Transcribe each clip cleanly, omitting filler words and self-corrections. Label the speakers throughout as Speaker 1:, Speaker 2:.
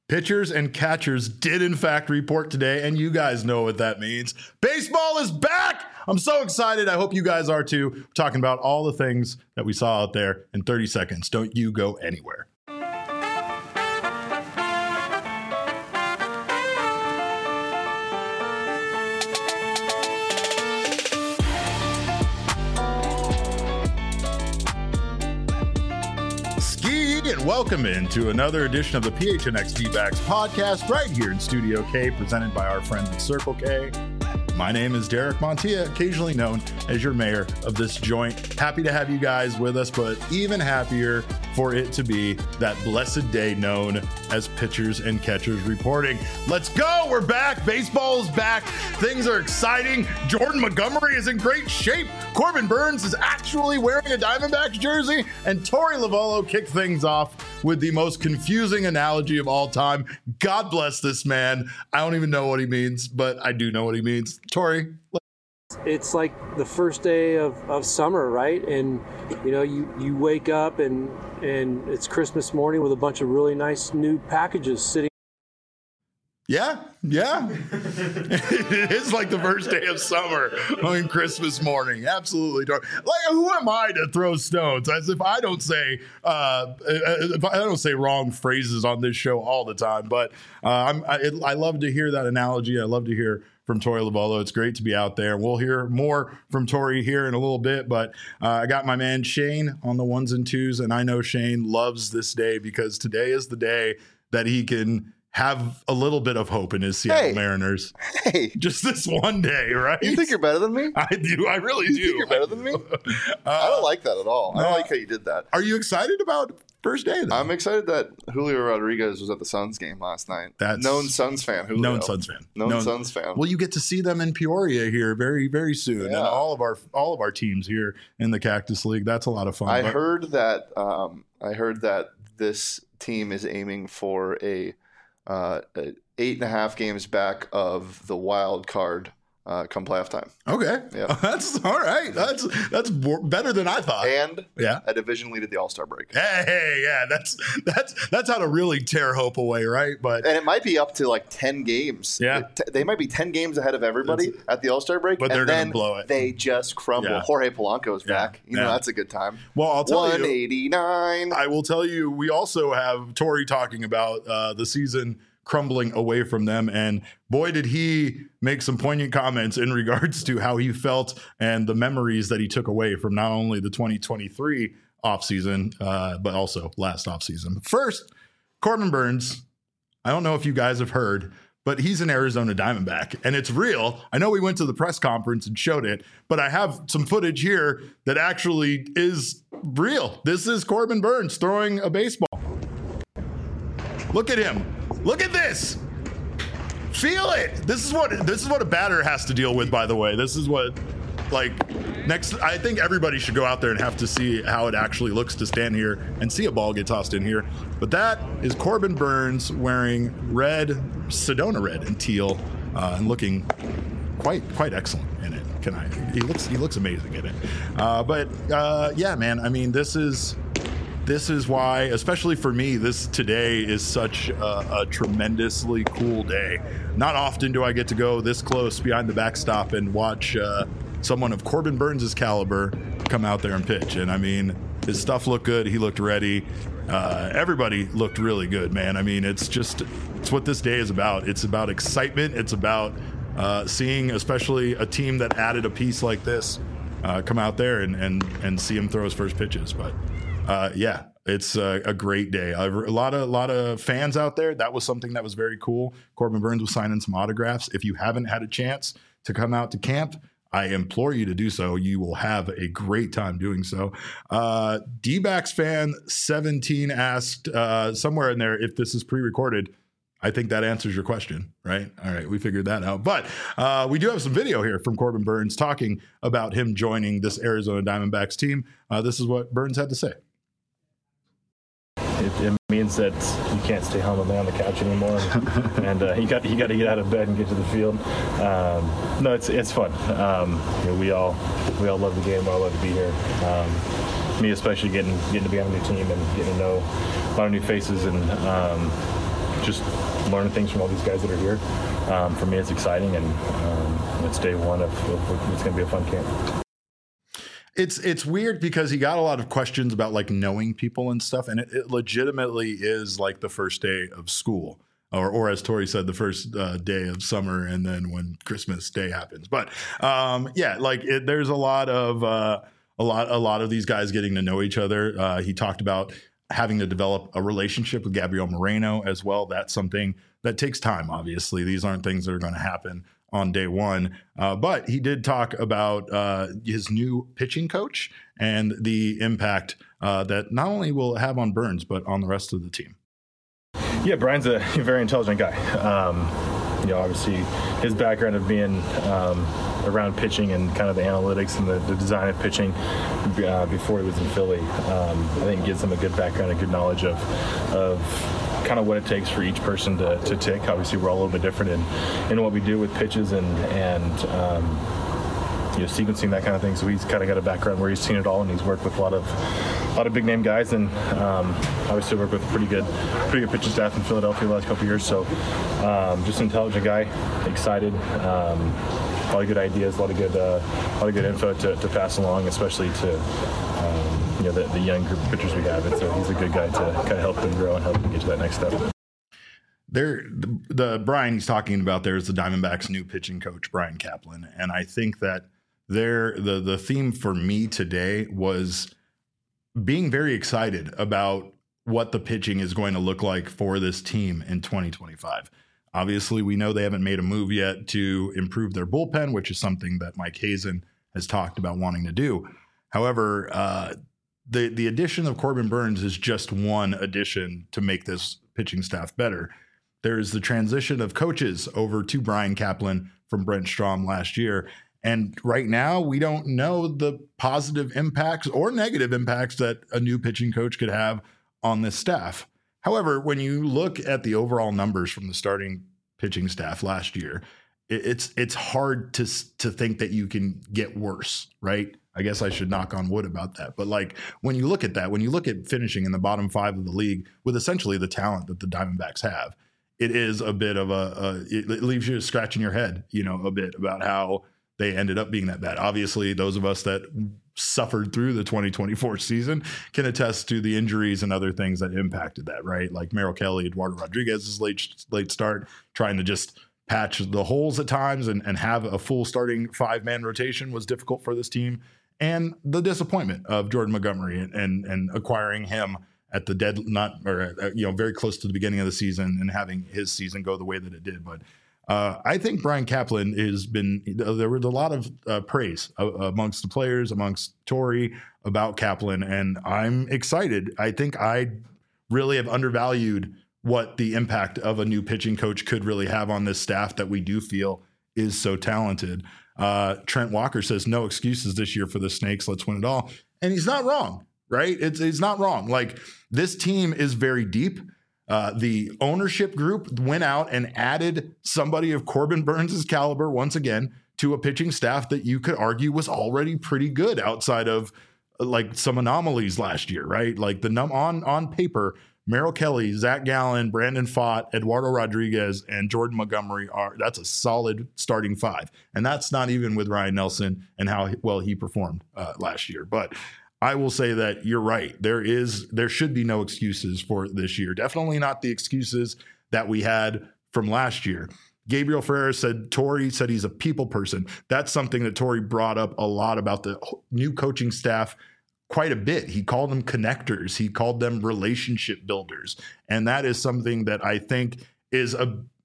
Speaker 1: Pitchers and catchers did in fact report today, and you guys know what that means. Baseball is back! I'm so excited. I hope you guys are too. We're talking about all the things that we saw out there in 30 seconds. Don't you go anywhere. And welcome into another edition of the PHNX D-Backs podcast right here in Studio K, presented by our friends at Circle K. My name is Derek Montilla, occasionally known as your mayor of this joint. Happy to have you guys with us, but even happier for it to be that blessed day known as pitchers and catchers reporting. Let's go. We're back. Baseball is back. Things are exciting. Jordan Montgomery is in great shape. Corbin Burnes is actually wearing a Diamondbacks jersey, and Torey Lovullo kicked things off with the most confusing analogy of all time. God bless this man. I don't even know what he means, but I do know what he means. Torey.
Speaker 2: It's like the first day of summer, right? And you know, you wake up and it's Christmas morning with a bunch of really nice new packages sitting.
Speaker 1: Yeah. It is like the first day of summer on Christmas morning. Absolutely. Like, who am I to throw stones? As if I don't say wrong phrases on this show all the time. But I love to hear that analogy. I love to hear from Torey Lovullo. It's great to be out there. We'll hear more from Torey here in a little bit, but I got my man Shane on the ones and twos, and I know Shane loves this day because today is the day that he can have a little bit of hope in his Seattle Mariners.
Speaker 3: Hey.
Speaker 1: Just this one day, right?
Speaker 3: You think you're better than me?
Speaker 1: I do. I really do.
Speaker 3: You think you're better than me? I don't like that at all. I don't like how you did that.
Speaker 1: Are you excited about first day, though?
Speaker 3: I'm excited that Julio Rodriguez was at the Suns game last night.
Speaker 1: That's
Speaker 3: known Suns fan. Julio.
Speaker 1: Known Suns fan.
Speaker 3: Known Suns fan.
Speaker 1: Well, you get to see them in Peoria here very, very soon.
Speaker 3: Yeah.
Speaker 1: And all of our teams here in the Cactus League. That's a lot of fun.
Speaker 3: I heard that this team is aiming for a 8.5 games back of the wild card come playoff time.
Speaker 1: Okay.
Speaker 3: Yeah.
Speaker 1: That's all right. That's better than I thought.
Speaker 3: And a division lead at the All-Star break.
Speaker 1: Hey, yeah, that's how to really tear hope away, right? But
Speaker 3: and it might be up to like 10 games.
Speaker 1: Yeah.
Speaker 3: They might be 10 games ahead of everybody at the All-Star break.
Speaker 1: But they're going to blow it.
Speaker 3: They just crumble.
Speaker 1: Yeah.
Speaker 3: Jorge Polanco's back. You know, that's a good time.
Speaker 1: Well, I'll tell
Speaker 3: 189.
Speaker 1: I will tell you, we also have Torey talking about the season crumbling away from them. And boy, did he make some poignant comments in regards to how he felt and the memories that he took away from not only the 2023 offseason, but also last offseason. First, Corbin Burnes, I don't know if you guys have heard, but he's an Arizona Diamondback, and it's real. I know we went to the press conference and showed it, but I have some footage here that actually is real. This is Corbin Burnes throwing a baseball. Look at him. Look at this. Feel it. This is what a batter has to deal with, by the way. This is what, next, I think everybody should go out there and have to see how it actually looks to stand here and see a ball get tossed in here. But that is Corbin Burnes wearing red, Sedona red and teal, and looking quite excellent in it. He looks amazing in it. Yeah, man, I mean, this is why, especially for me, this today is such a tremendously cool day. Not often do I get to go this close behind the backstop and watch someone of Corbin Burnes' caliber come out there and pitch. And I mean, his stuff looked good. He looked ready. Everybody looked really good, man. I mean, it's what this day is about. It's about excitement. It's about seeing, especially a team that added a piece like this, come out there and see him throw his first pitches. But yeah, it's a great day. A lot of fans out there. That was something that was very cool. Corbin Burnes was signing some autographs. If you haven't had a chance to come out to camp, I implore you to do so. You will have a great time doing so. D-Backs fan 17 asked somewhere in there if this is pre-recorded. I think that answers your question, right? All right, we figured that out. But we do have some video here from Corbin Burnes talking about him joining this Arizona Diamondbacks team. This is what Burnes had to say.
Speaker 4: It means that you can't stay home and lay on the couch anymore, and you got to get out of bed and get to the field. No, it's fun. We all love the game. We all love to be here. Me especially getting to be on a new team and getting to know a lot of new faces and just learning things from all these guys that are here. For me, it's exciting, and it's day one of it's going to be a fun camp.
Speaker 1: It's weird because he got a lot of questions about like knowing people and stuff, and it legitimately is like the first day of school, or as Tori said, the first day of summer, and then when Christmas Day happens. But yeah, like there's a lot of these guys getting to know each other. He talked about having to develop a relationship with Gabriel Moreno as well. That's something that takes time. Obviously, these aren't things that are going to happen on day one. But he did talk about his new pitching coach and the impact that not only will it have on Burns, but on the rest of the team.
Speaker 4: Yeah, Brian's a very intelligent guy. Obviously his background of being around pitching and kind of the analytics and the design of pitching before he was in Philly, I think gives him a good background and good knowledge of kind of what it takes for each person to tick. Obviously, we're all a little bit different in what we do with pitches and sequencing, that kind of thing. So he's kind of got a background where he's seen it all, and he's worked with a lot of big name guys, and obviously worked with a pretty good pitching staff in Philadelphia the last couple of years. So just an intelligent guy, excited. A lot of good ideas, a lot of good info to pass along, especially to the young group of pitchers we have. And so he's a good guy to kind of help them grow and help them get to that next step.
Speaker 1: The Brian he's talking about there is the Diamondbacks' new pitching coach, Brian Kaplan, and I think that the theme for me today was being very excited about what the pitching is going to look like for this team in 2025. Obviously, we know they haven't made a move yet to improve their bullpen, which is something that Mike Hazen has talked about wanting to do. However, the addition of Corbin Burns is just one addition to make this pitching staff better. There's the transition of coaches over to Brian Kaplan from Brent Strom last year. And right now, we don't know the positive impacts or negative impacts that a new pitching coach could have on this staff. However, when you look at the overall numbers from the starting pitching staff last year, it's hard to think that you can get worse, right? I guess I should knock on wood about that. But like when you look at that, when you look at finishing in the bottom five of the league with essentially the talent that the Diamondbacks have, it is a bit of it leaves you scratching your head, a bit about how they ended up being that bad. Obviously, those of us that suffered through the 2024 season can attest to the injuries and other things that impacted that, right? Like Merrill Kelly, Eduardo Rodriguez's late start, trying to just patch the holes at times and have a full starting 5-man rotation was difficult for this team. And the disappointment of Jordan Montgomery and acquiring him at the very close to the beginning of the season and having his season go the way that it did. But I think Brian Kaplan there was a lot of praise amongst the players, amongst Tori about Kaplan, and I'm excited. I think I really have undervalued what the impact of a new pitching coach could really have on this staff that we do feel is so talented. Trent Walker says no excuses this year for the Snakes. Let's win it all. And he's not wrong, right? He's not wrong. Like, this team is very deep. The ownership group went out and added somebody of Corbin Burns' caliber once again to a pitching staff that you could argue was already pretty good outside of like some anomalies last year, right? Like on paper, Merrill Kelly, Zach Gallen, Brandon Pfaadt, Eduardo Rodriguez, and Jordan Montgomery that's a solid starting 5. And that's not even with Ryan Nelson and how well he performed last year. But I will say that you're right. There should be no excuses for this year. Definitely not the excuses that we had from last year. Gabriel Ferreira said, Tori said he's a people person. That's something that Tori brought up a lot about the new coaching staff quite a bit. He called them connectors. He called them relationship builders. And that is something that I think is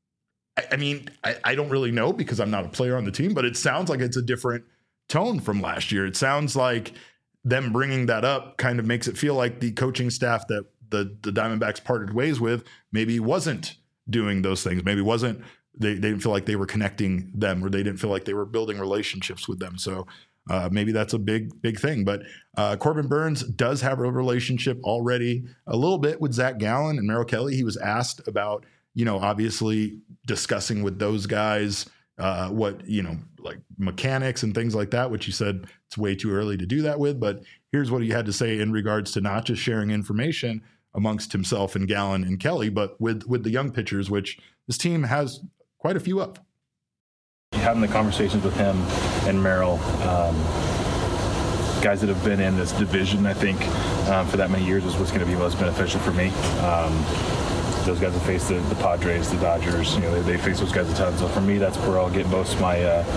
Speaker 1: I don't really know because I'm not a player on the team, but it sounds like it's a different tone from last year. It sounds like them bringing that up kind of makes it feel like the coaching staff that the Diamondbacks parted ways with maybe wasn't doing those things. Maybe they didn't feel like they were connecting them, or they didn't feel like they were building relationships with them. So maybe that's a big thing. But Corbin Burns does have a relationship already a little bit with Zach Gallen and Merrill Kelly. He was asked about, obviously discussing with those guys what, like mechanics and things like that, which he said it's way too early to do that with. But here's what he had to say in regards to not just sharing information amongst himself and Gallen and Kelly, but with the young pitchers, which this team has quite a few of.
Speaker 4: Having the conversations with him and Merrill, guys that have been in this division, I think, for that many years is what's going to be most beneficial for me. Those guys have faced the Padres, the Dodgers. They face those guys a ton. So for me, that's where I'll get most of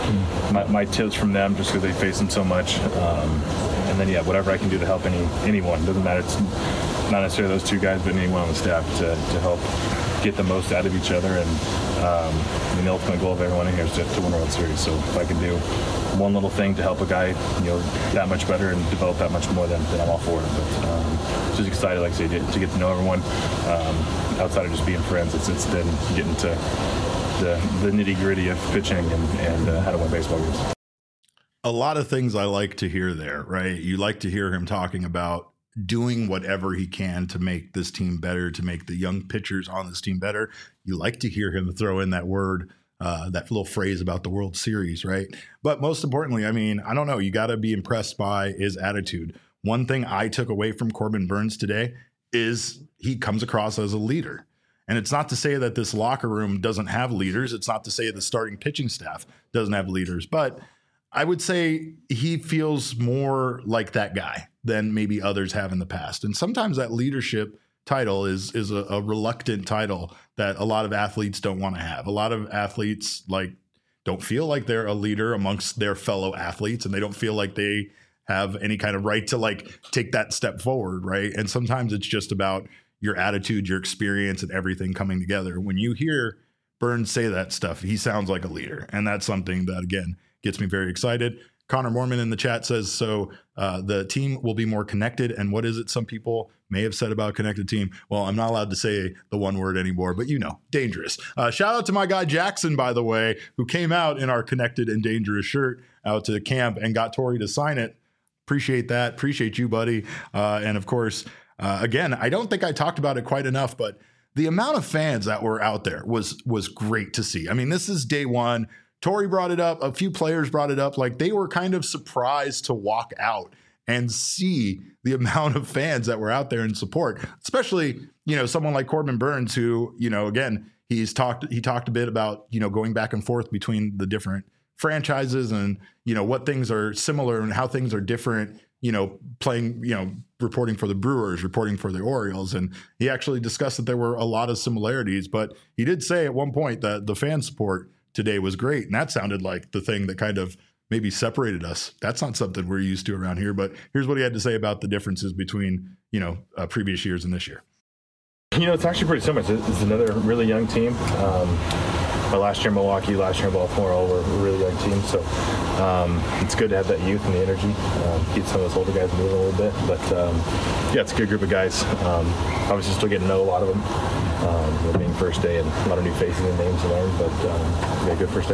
Speaker 4: my tips from them, just because they face them so much. And then whatever I can do to help anyone, doesn't matter. It's not necessarily those two guys, but anyone on the staff to help get the most out of each other. And the ultimate goal of everyone in here is to win a World Series. So if I can do one little thing to help a guy, that much better and develop that much more, then I'm all for it. But just excited, like I say, to get to know everyone outside of just being friends. It's then getting to the nitty gritty of pitching and how to win baseball games.
Speaker 1: A lot of things I like to hear there, right? You like to hear him talking about doing whatever he can to make this team better, to make the young pitchers on this team better. You like to hear him throw in that word, that little phrase about the World Series, right? But most importantly, I mean, I don't know, you got to be impressed by his attitude. One thing I took away from Corbin Burnes today is he comes across as a leader. And it's not to say that this locker room doesn't have leaders. It's not to say the starting pitching staff doesn't have leaders, but I would say he feels more like that guy than maybe others have in the past. And sometimes that leadership title is a reluctant title that a lot of athletes don't want to have. A lot of athletes don't feel like they're a leader amongst their fellow athletes, and they don't feel like they have any kind of right to take that step forward, right? And sometimes it's just about your attitude, your experience, and everything coming together. When you hear Burnes say that stuff, he sounds like a leader. And that's something that, again, gets me very excited. Connor Mormon in the chat says, so the team will be more connected. And what is it some people may have said about connected team? Well, I'm not allowed to say the one word anymore, but dangerous. Shout out to my guy Jackson, by the way, who came out in our connected and dangerous shirt out to the camp and got Tori to sign it. Appreciate that. Appreciate you, buddy. And of course, again, I don't think I talked about it quite enough, but the amount of fans that were out there was great to see. I mean, this is day one. Tori brought it up. A few players brought it up. They were kind of surprised to walk out and see the amount of fans that were out there in support, especially, someone like Corbin Burnes, who, again, he talked a bit about, going back and forth between the different franchises and, what things are similar and how things are different, playing, reporting for the Brewers, reporting for the Orioles. And he actually discussed that there were a lot of similarities, but he did say at one point that the fan support today was great. And that sounded like the thing that kind of maybe separated us. That's not something we're used to around here, but here's what he had to say about the differences between, previous years and this year.
Speaker 4: It's actually pretty similar. It's another really young team. Last year Milwaukee, last year Baltimore, all were a really young team. So it's good to have that youth and the energy. Keep some of those older guys moving a little bit. But it's a good group of guys. Obviously still getting to know a lot of them. Being first day and a lot of new faces and names to learn, but good first day.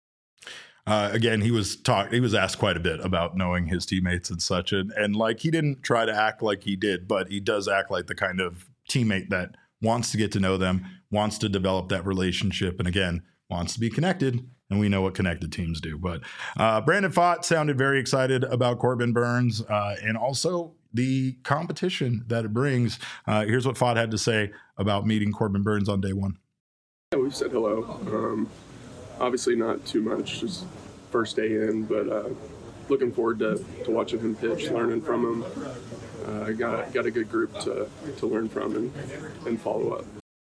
Speaker 1: Again, he was asked quite a bit about knowing his teammates and such, and he didn't try to act like he did, but he does act like the kind of teammate that wants to get to know them, wants to develop that relationship, and again, wants to be connected. And we know what connected teams do. But Brandon Pfaadt sounded very excited about Corbin Burnes and also the competition that it brings. Here's what Pfaadt had to say about meeting Corbin Burnes on day one.
Speaker 5: Yeah, we've said hello. Obviously not too much, just first day in, but looking forward to watching him pitch, learning from him. Got a good group to learn from and follow up.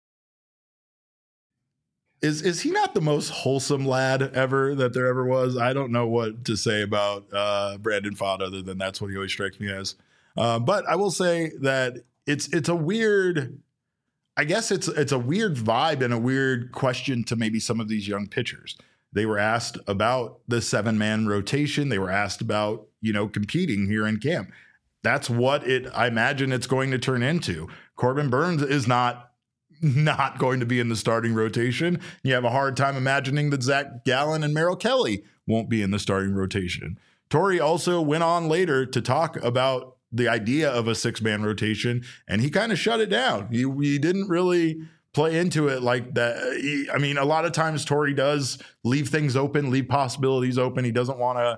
Speaker 1: Is he not the most wholesome lad ever that there ever was? I don't know what to say about Brandon Pfaadt other than that's what he always strikes me as. But I will say that it's a weird, I guess it's a weird vibe and a weird question to maybe some of these young pitchers. They were asked about the 7-man rotation. They were asked about, competing here in camp. That's what I imagine it's going to turn into. Corbin Burnes is not going to be in the starting rotation. You have a hard time imagining that Zach Gallen and Merrill Kelly won't be in the starting rotation. Tori also went on later to talk about the idea of a 6-man rotation, and he kind of shut it down. He didn't really play into it like that. A lot of times Tori does leave things open, leave possibilities open. He doesn't want to,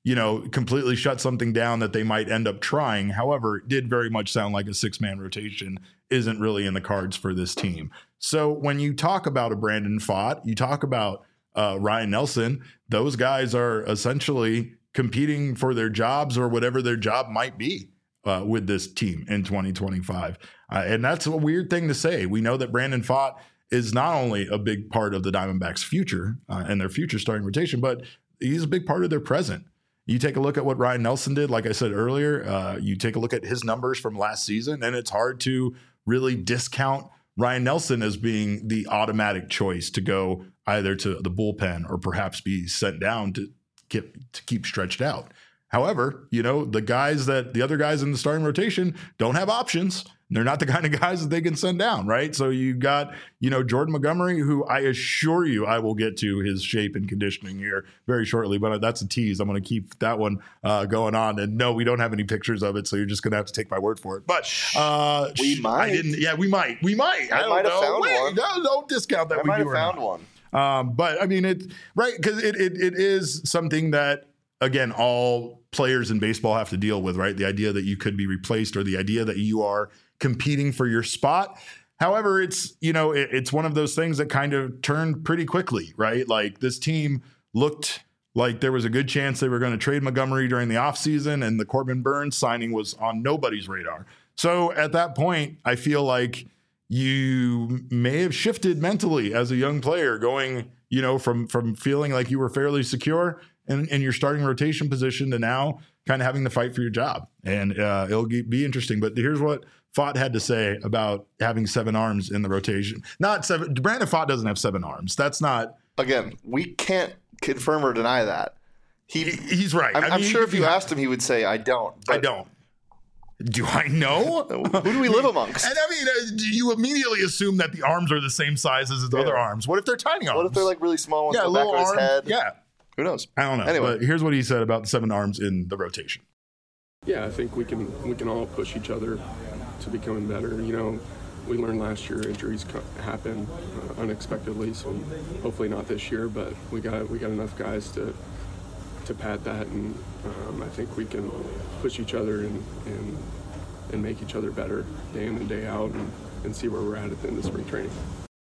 Speaker 1: completely shut something down that they might end up trying. However, it did very much sound like a 6-man rotation isn't really in the cards for this team. So when you talk about a Brandon Pfaadt, you talk about Ryan Nelson, those guys are essentially competing for their jobs or whatever their job might be with this team in 2025. And that's a weird thing to say. We know that Brandon Pfaadt is not only a big part of the Diamondbacks' future and their future starting rotation, but he's a big part of their present. You take a look at what Ryan Nelson did, like I said earlier, you take a look at his numbers from last season, and it's hard to really discount Ryan Nelson as being the automatic choice to go either to the bullpen or perhaps be sent down to keep stretched out. However, the other guys in the starting rotation don't have options. They're not the kind of guys that they can send down, right? So you got, Jordan Montgomery, who I assure you I will get to his shape and conditioning here very shortly, but that's a tease. I'm going to keep that one going on. And no, we don't have any pictures of it, so you're just going to have to take my word for it. But
Speaker 3: we might.
Speaker 1: We might. I might have found one. No, don't discount that.
Speaker 3: I might have found one.
Speaker 1: But I mean, it's right because it is something that, again, all players in baseball have to deal with, right? The idea that you could be replaced or the idea that you are competing for your spot. However, it's one of those things that kind of turned pretty quickly, right? Like this team looked like there was a good chance they were going to trade Montgomery during the offseason, and the Corbin Burnes signing was on nobody's radar. So at that point, I feel like you may have shifted mentally as a young player going, from feeling like you were fairly secure in your starting rotation position to now kind of having to fight for your job. And it'll be interesting. But here's what Pfaadt had to say about having 7 arms in the rotation. Not 7. Brandon Pfaadt doesn't have 7 arms. That's not.
Speaker 3: Again, we can't confirm or deny that.
Speaker 1: He's right.
Speaker 3: I'm sure if you asked him, he would say, I don't.
Speaker 1: I don't. Do I know?
Speaker 3: Who do we live amongst?
Speaker 1: And I mean, you immediately assume that the arms are the same size as his other arms. What if they're tiny arms?
Speaker 3: What if they're like really small ones on the back of his head?
Speaker 1: Yeah.
Speaker 3: Who knows?
Speaker 1: I don't know.
Speaker 3: Anyway.
Speaker 1: But here's what he said about the 7 arms in the rotation.
Speaker 5: Yeah, I think we can all push each other to becoming better. We learned last year injuries happen unexpectedly, so hopefully not this year. But we got enough guys to pad that, and I think we can push each other and make each other better day in and day out, and see where we're at the end of spring training.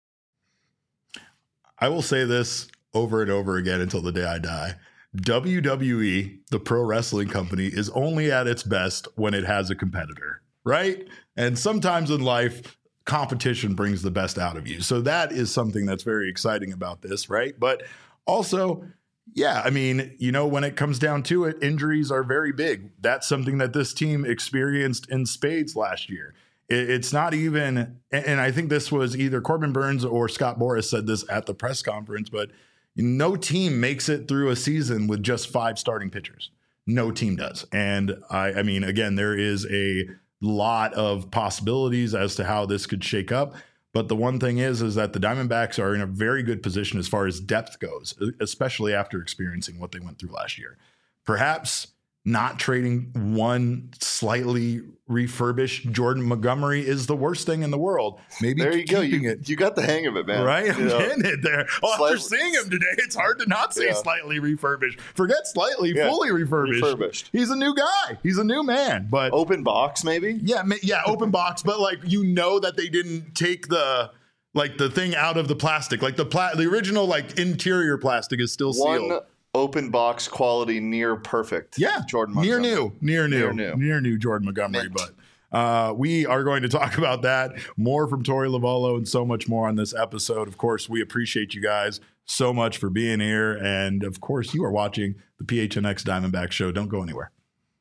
Speaker 1: I will say this over and over again until the day I die. WWE, the pro wrestling company, is only at its best when it has a competitor, right? And sometimes in life, competition brings the best out of you. So that is something that's very exciting about this, right? But also, yeah, I mean, when it comes down to it, injuries are very big. That's something that this team experienced in spades last year. It's not even, and I think this was either Corbin Burnes or Scott Boras said this at the press conference, but no team makes it through a season with just 5 starting pitchers. No team does. And I mean, again, there is a lot of possibilities as to how this could shake up. But the one thing is that the Diamondbacks are in a very good position as far as depth goes, especially after experiencing what they went through last year. Perhaps not trading one slightly refurbished Jordan Montgomery is the worst thing in the world. Maybe
Speaker 3: there you go.
Speaker 1: It.
Speaker 3: You got the hang of it, man.
Speaker 1: Right? I'm getting it there. Well, after seeing him today, it's hard to not say slightly refurbished. Forget slightly, fully refurbished. He's a new guy. He's a new man. But
Speaker 3: open box, maybe?
Speaker 1: Yeah, open box. But that they didn't take the thing out of the plastic. Like the original interior plastic is still sealed.
Speaker 3: One open box quality near perfect.
Speaker 1: Yeah.
Speaker 3: Jordan Montgomery.
Speaker 1: Near new Jordan Montgomery.
Speaker 3: Mint.
Speaker 1: But we are going to talk about that, more from Torey Lovullo, and so much more on this episode. Of course, we appreciate you guys so much for being here. And of course, you are watching the PHNX Diamondback Show. Don't go anywhere.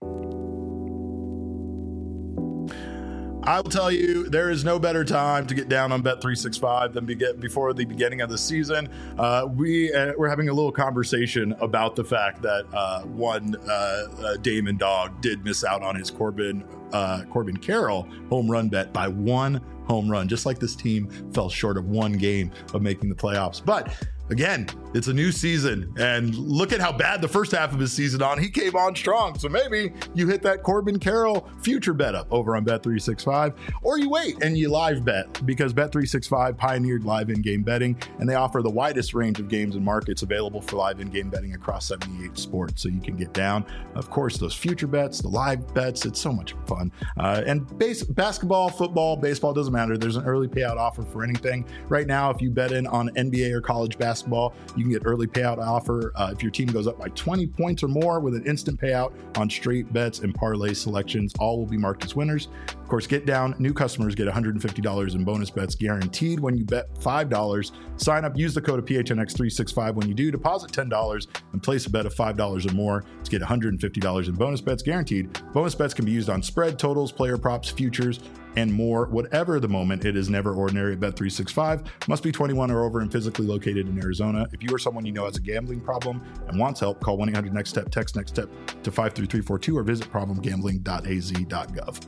Speaker 1: I will tell you, there is no better time to get down on Bet365 than before the beginning of the season. We're having a little conversation about the fact that one Damon Dog did miss out on his Corbin Corbin Carroll home run bet by 1 home run, just like this team fell short of 1 game of making the playoffs. But again, it's a new season, and look at how bad the first half of his season he came on strong. So maybe you hit that Corbin Carroll future bet up over on Bet365, or you wait and you live bet, because Bet365 pioneered live in-game betting, and they offer the widest range of games and markets available for live in-game betting across 78 sports. So you can get down, of course, those future bets, the live bets. It's so much fun. And basketball, football, baseball, doesn't matter. There's an early payout offer for anything. Right now, if you bet in on NBA or college basketball, you can get early payout offer if your team goes up by 20 points or more, with an instant payout on straight bets and parlay selections. All will be marked as winners. Of course, get down. New customers get $150 in bonus bets guaranteed when you bet $5. Sign up, use the code of PHNX365 when you do. Deposit $10 and place a bet of $5 or more to get $150 in bonus bets guaranteed. Bonus bets can be used on spread, totals, player props, futures, and more. Whatever the moment, it is never ordinary at Bet365. Must be 21 or over and physically located in Arizona. If you or someone you know has a gambling problem and wants help, call 1-800-NEXT-STEP, text NEXT STEP to 53342, or visit problemgambling.az.gov.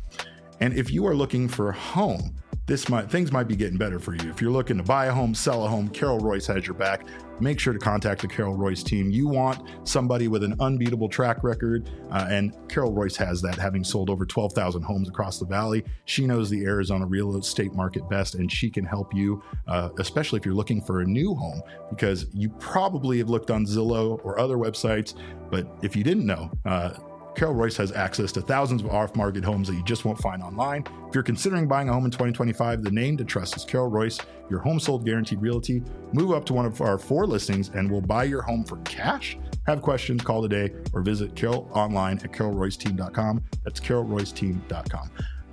Speaker 1: And if you are looking for a home, things might be getting better for you. If you're looking to buy a home, sell a home, Carol Royce has your back. Make sure to contact the Carol Royce team. You want somebody with an unbeatable track record, and Carol Royce has that, having sold over 12,000 homes across the valley. She knows the Arizona real estate market best, and she can help you, especially if you're looking for a new home, because you probably have looked on Zillow or other websites, but if you didn't know, Carol Royce has access to thousands of off-market homes that you just won't find online. If you're considering buying a home in 2025, the name to trust is Carol Royce, your home sold guaranteed realty. Move up to one of our 4 listings and we'll buy your home for cash. Have questions, call today, or visit Carol online at carolroyceteam.com. That's carolroyceteam.com.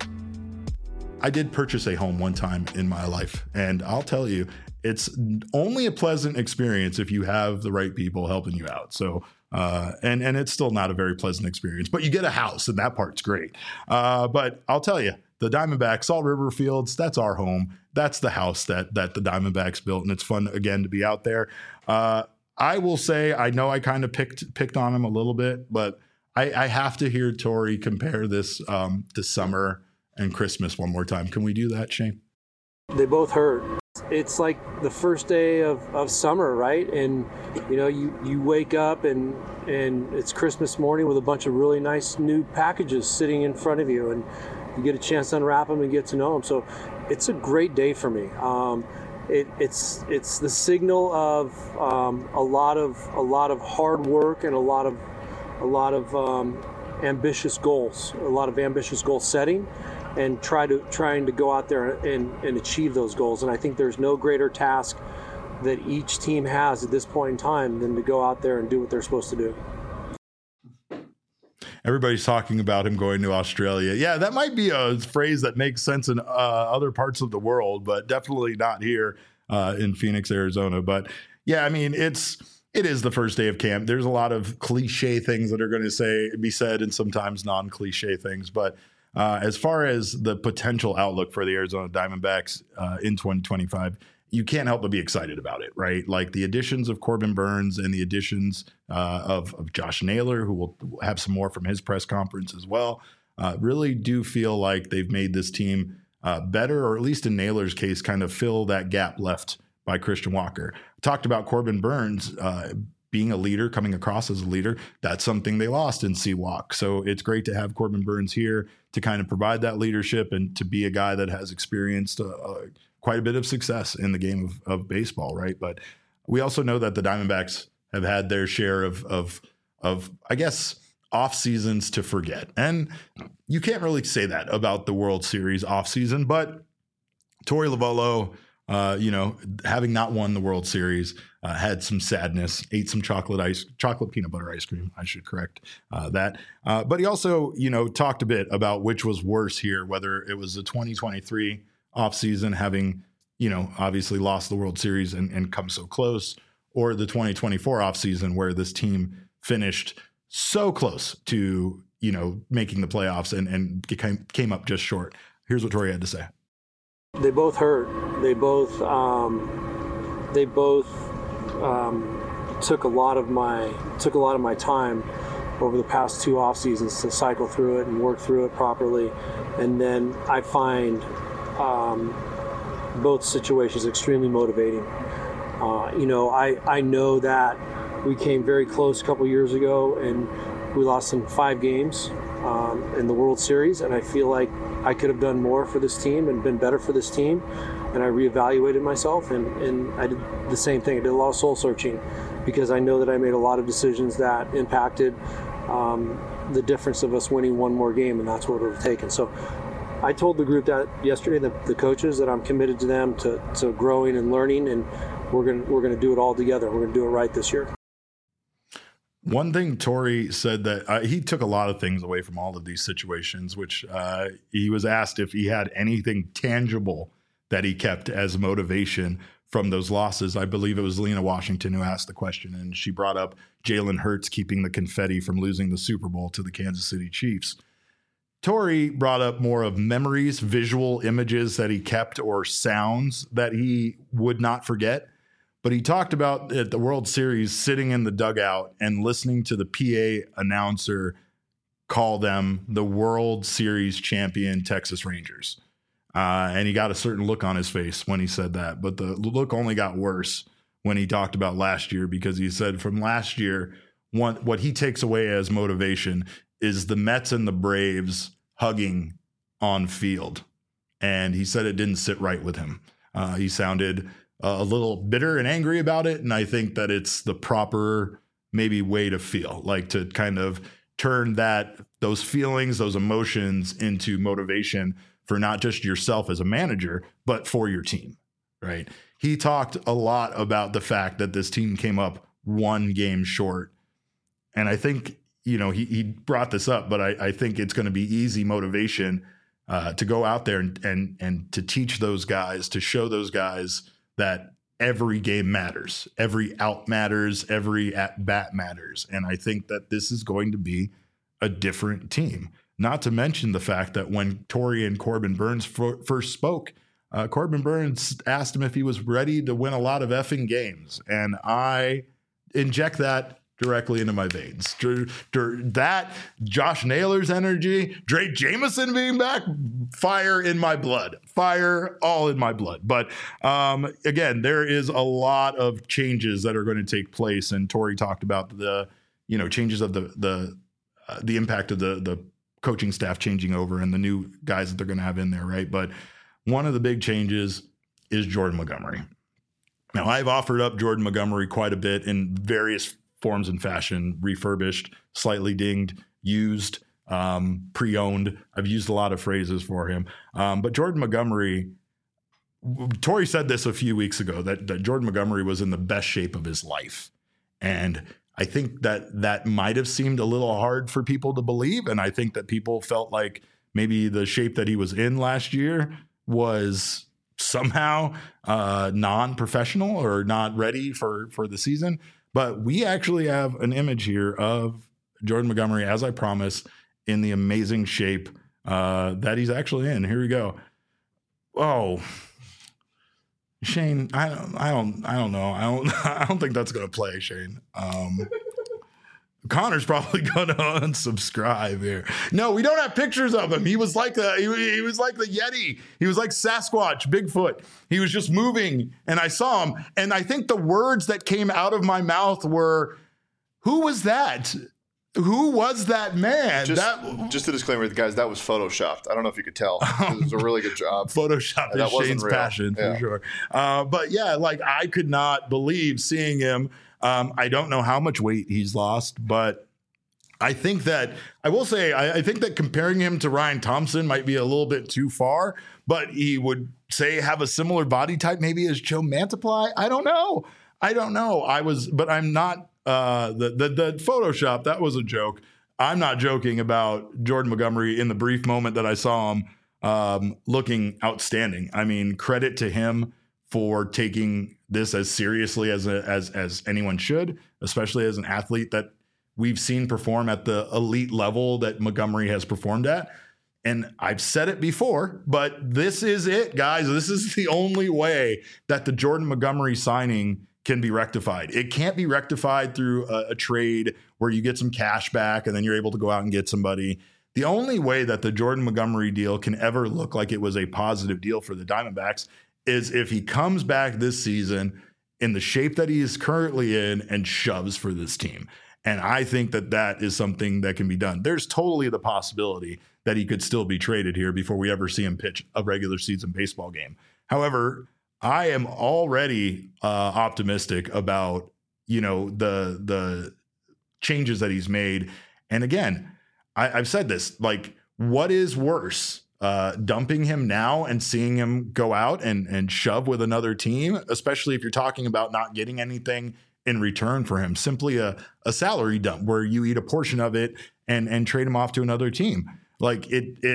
Speaker 1: I did purchase a home one time in my life, and I'll tell you, it's only a pleasant experience if you have the right people helping you out. So, and it's still not a very pleasant experience, but you get a house, and that part's great. But I'll tell you, the Diamondbacks, Salt River Fields, that's our home. That's the house that the Diamondbacks built, and it's fun, again, to be out there. I will say, I know I kind of picked on him a little bit, but I have to hear Tori compare this to summer and Christmas one more time. Can we do that, Shane?
Speaker 2: They both hurt. It's like the first day of summer, right? And you wake up and it's Christmas morning with a bunch of really nice new packages sitting in front of you, and you get a chance to unwrap them and get to know them. So it's a great day for me. It's the signal of a lot of hard work and a lot of ambitious goals, a lot of ambitious goal setting, and trying to go out there and achieve those goals. And I think there's no greater task that each team has at this point in time than to go out there and do what they're supposed to do.
Speaker 1: Everybody's talking about him going to Australia. Yeah, that might be a phrase that makes sense in other parts of the world, but definitely not here in Phoenix, Arizona. But yeah, I mean, it is the first day of camp. There's a lot of cliche things that are going to be said, and sometimes non-cliche things. But as far as the potential outlook for the Arizona Diamondbacks in 2025, you can't help but be excited about it, right? Like the additions of Corbin Burns and the additions of Josh Naylor, who will have some more from his press conference as well, really do feel like they've made this team better, or at least in Naylor's case, kind of fill that gap left by Christian Walker. Talked about Corbin Burns being a leader, coming across as a leader. That's something they lost in C-Walk. So it's great to have Corbin Burns here to kind of provide that leadership and to be a guy that has experienced quite a bit of success in the game of baseball, right? But we also know that the Diamondbacks have had their share of I guess, off seasons to forget. And you can't really say that about the World Series off season, but Torey Lovullo, having not won the World Series, had some sadness, ate some chocolate peanut butter ice cream. I should correct that. But he also, talked a bit about which was worse here, whether it was the 2023 offseason, having, obviously lost the World Series and come so close, or the 2024 offseason where this team finished so close to, making the playoffs and came up just short. Here's what Torey had to say.
Speaker 2: They both hurt. They both took a lot of my time. over the past 2 off seasons to cycle through it and work through it properly. And then I find both situations extremely motivating. I know that we came very close a couple years ago and we lost in 5 games in the World Series, and I feel like I could have done more for this team and been better for this team. And I reevaluated myself, and I did the same thing. I did a lot of soul searching because I know that I made a lot of decisions that impacted the difference of us winning one more game, and that's what it would have taken. So I told the group that yesterday, the coaches, that I'm committed to them to growing and learning, and we're gonna do it all together. We're gonna do it right this year.
Speaker 1: One thing Torrey said that he took a lot of things away from all of these situations, which he was asked if he had anything tangible that he kept as motivation from those losses. I believe it was Lena Washington who asked the question, and she brought up Jalen Hurts keeping the confetti from losing the Super Bowl to the Kansas City Chiefs. Torrey brought up more of memories, visual images that he kept, or sounds that he would not forget. But he talked about at the World Series sitting in the dugout and listening to the PA announcer call them the World Series champion Texas Rangers. And he got a certain look on his face when he said that. But the look only got worse when he talked about last year, because he said from last year, what he takes away as motivation is the Mets and the Braves hugging on field. And he said it didn't sit right with him. He sounded a little bitter and angry about it. And I think that it's the proper maybe way to feel, like to kind of turn those feelings, those emotions into motivation for not just yourself as a manager, but for your team, right? He talked a lot about the fact that this team came up 1 game short. And I think, he brought this up, but I think it's going to be easy motivation to go out there and to teach those guys, to show those guys that every game matters, every out matters, every at bat matters. And I think that this is going to be a different team. Not to mention the fact that when Torrey and Corbin Burns first spoke, Corbin Burns asked him if he was ready to win a lot of effing games. And I inject that directly into my veins. That, Josh Naylor's energy, Drake Jameson being back, fire in my blood. Fire all in my blood. But again, there is a lot of changes that are going to take place. And Torrey talked about the changes of the impact of the coaching staff changing over and the new guys that they're going to have in there, right? But one of the big changes is Jordan Montgomery. Now, I've offered up Jordan Montgomery quite a bit in various forms and fashion: refurbished, slightly dinged, used, pre-owned. I've used a lot of phrases for him. But Jordan Montgomery, Torrey said this a few weeks ago, that Jordan Montgomery was in the best shape of his life. And I think that might have seemed a little hard for people to believe. And I think that people felt like maybe the shape that he was in last year was somehow non-professional or not ready for the season. But we actually have an image here of Jordan Montgomery, as I promised, in the amazing shape that he's actually in. Here we go. Oh, Shane, I don't know. I don't think that's going to play, Shane. Connor's probably going to unsubscribe here. No, we don't have pictures of him. He was like he was like the Yeti. He was like Sasquatch, Bigfoot. He was just moving, and I saw him. And I think the words that came out of my mouth were, "Who was that? Who was that man?"
Speaker 3: Just a disclaimer, guys, that was photoshopped. I don't know if you could tell. It was a really good job.
Speaker 1: Photoshop is Shane's passion, for sure. But yeah, like I could not believe seeing him. I don't know how much weight he's lost, but I think that I will say I think that comparing him to Ryan Thompson might be a little bit too far, but he would say have a similar body type maybe as Joe Mantiply. I don't know. But I'm not. The Photoshop, that was a joke. I'm not joking about Jordan Montgomery in the brief moment that I saw him looking outstanding. I mean, credit to him for taking this as seriously as anyone should, especially as an athlete that we've seen perform at the elite level that Montgomery has performed at. And I've said it before, but this is it, guys. This is the only way that the Jordan Montgomery signing can be rectified. It can't be rectified through a trade where you get some cash back and then you're able to go out and get somebody. The only way that the Jordan Montgomery deal can ever look like it was a positive deal for the Diamondbacks is if he comes back this season in the shape that he is currently in and shoves for this team. And I think that that is something that can be done. There's totally the possibility that he could still be traded here before we ever see him pitch a regular season baseball game. However, I am already optimistic about, the changes that he's made. And again, I've said this, like, what is worse? Dumping him now and seeing him go out and shove with another team, especially if you're talking about not getting anything in return for him, simply a salary dump where you eat a portion of it and trade him off to another team. Like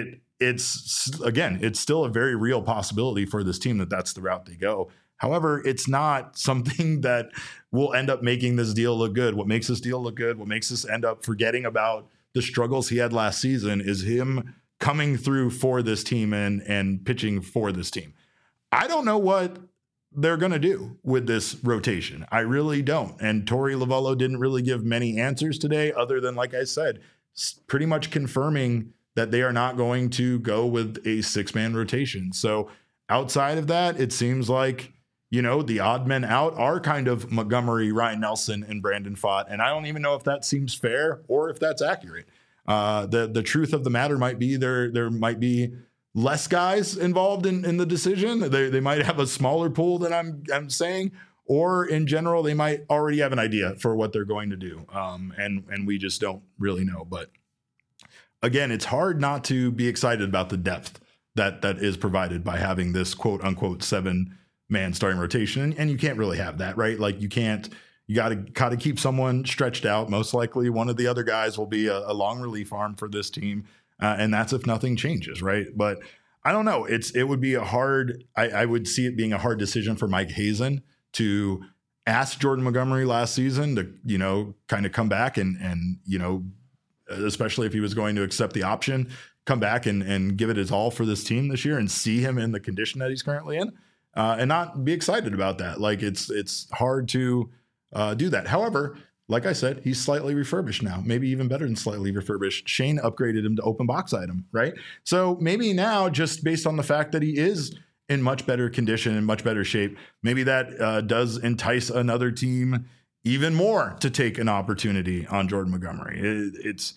Speaker 1: it's still a very real possibility for this team that that's the route they go. However, it's not something that will end up making this deal look good. What makes this deal look good, what makes us end up forgetting about the struggles he had last season is him coming through for this team and pitching for this team. I don't know what they're going to do with this rotation. I really don't. And Torey Lovullo didn't really give many answers today other than, like I said, pretty much confirming that they are not going to go with a 6-man rotation. So outside of that, it seems like, the odd men out are kind of Montgomery, Ryan Nelson, and Brandon Pfaadt. And I don't even know if that seems fair or if that's accurate. The truth of the matter might be there might be less guys involved in the decision. They might have a smaller pool than I'm saying, or in general, they might already have an idea for what they're going to do. And we just don't really know. But again, it's hard not to be excited about the depth that is provided by having this quote unquote 7-man starting rotation. And you can't really have that, right? Like you got to keep someone stretched out. Most likely one of the other guys will be a long relief arm for this team. And that's if nothing changes, right? But I don't know. It would be I would see it being a hard decision for Mike Hazen to ask Jordan Montgomery last season to, kind of come back and especially if he was going to accept the option, come back and give it his all for this team this year and see him in the condition that he's currently in and not be excited about that. Like it's hard to do that. However, like I said, he's slightly refurbished now, maybe even better than slightly refurbished. Shane upgraded him to open box item, right? So maybe now, just based on the fact that he is in much better condition and much better shape, maybe that does entice another team even more to take an opportunity on Jordan Montgomery.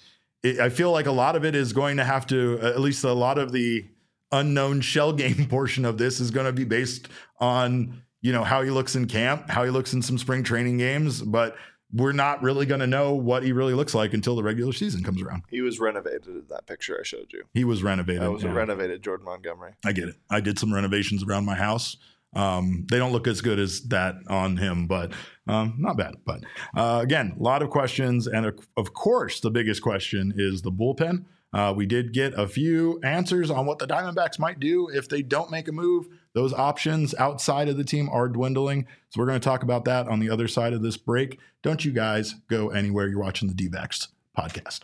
Speaker 1: I feel like a lot of it is going to have to, at least a lot of the unknown shell game portion of this is going to be based on, how he looks in camp, how he looks in some spring training games, but we're not really going to know what he really looks like until the regular season comes around.
Speaker 3: He was renovated in that picture I showed you.
Speaker 1: He was renovated.
Speaker 3: That was a renovated Jordan Montgomery.
Speaker 1: I get it. I did some renovations around my house. They don't look as good as that on him, but not bad. But again, a lot of questions. And of course, the biggest question is the bullpen. We did get a few answers on what the Diamondbacks might do if they don't make a move. Those options outside of the team are dwindling. So we're going to talk about that on the other side of this break. Don't you guys go anywhere. You're watching the D-Backs podcast.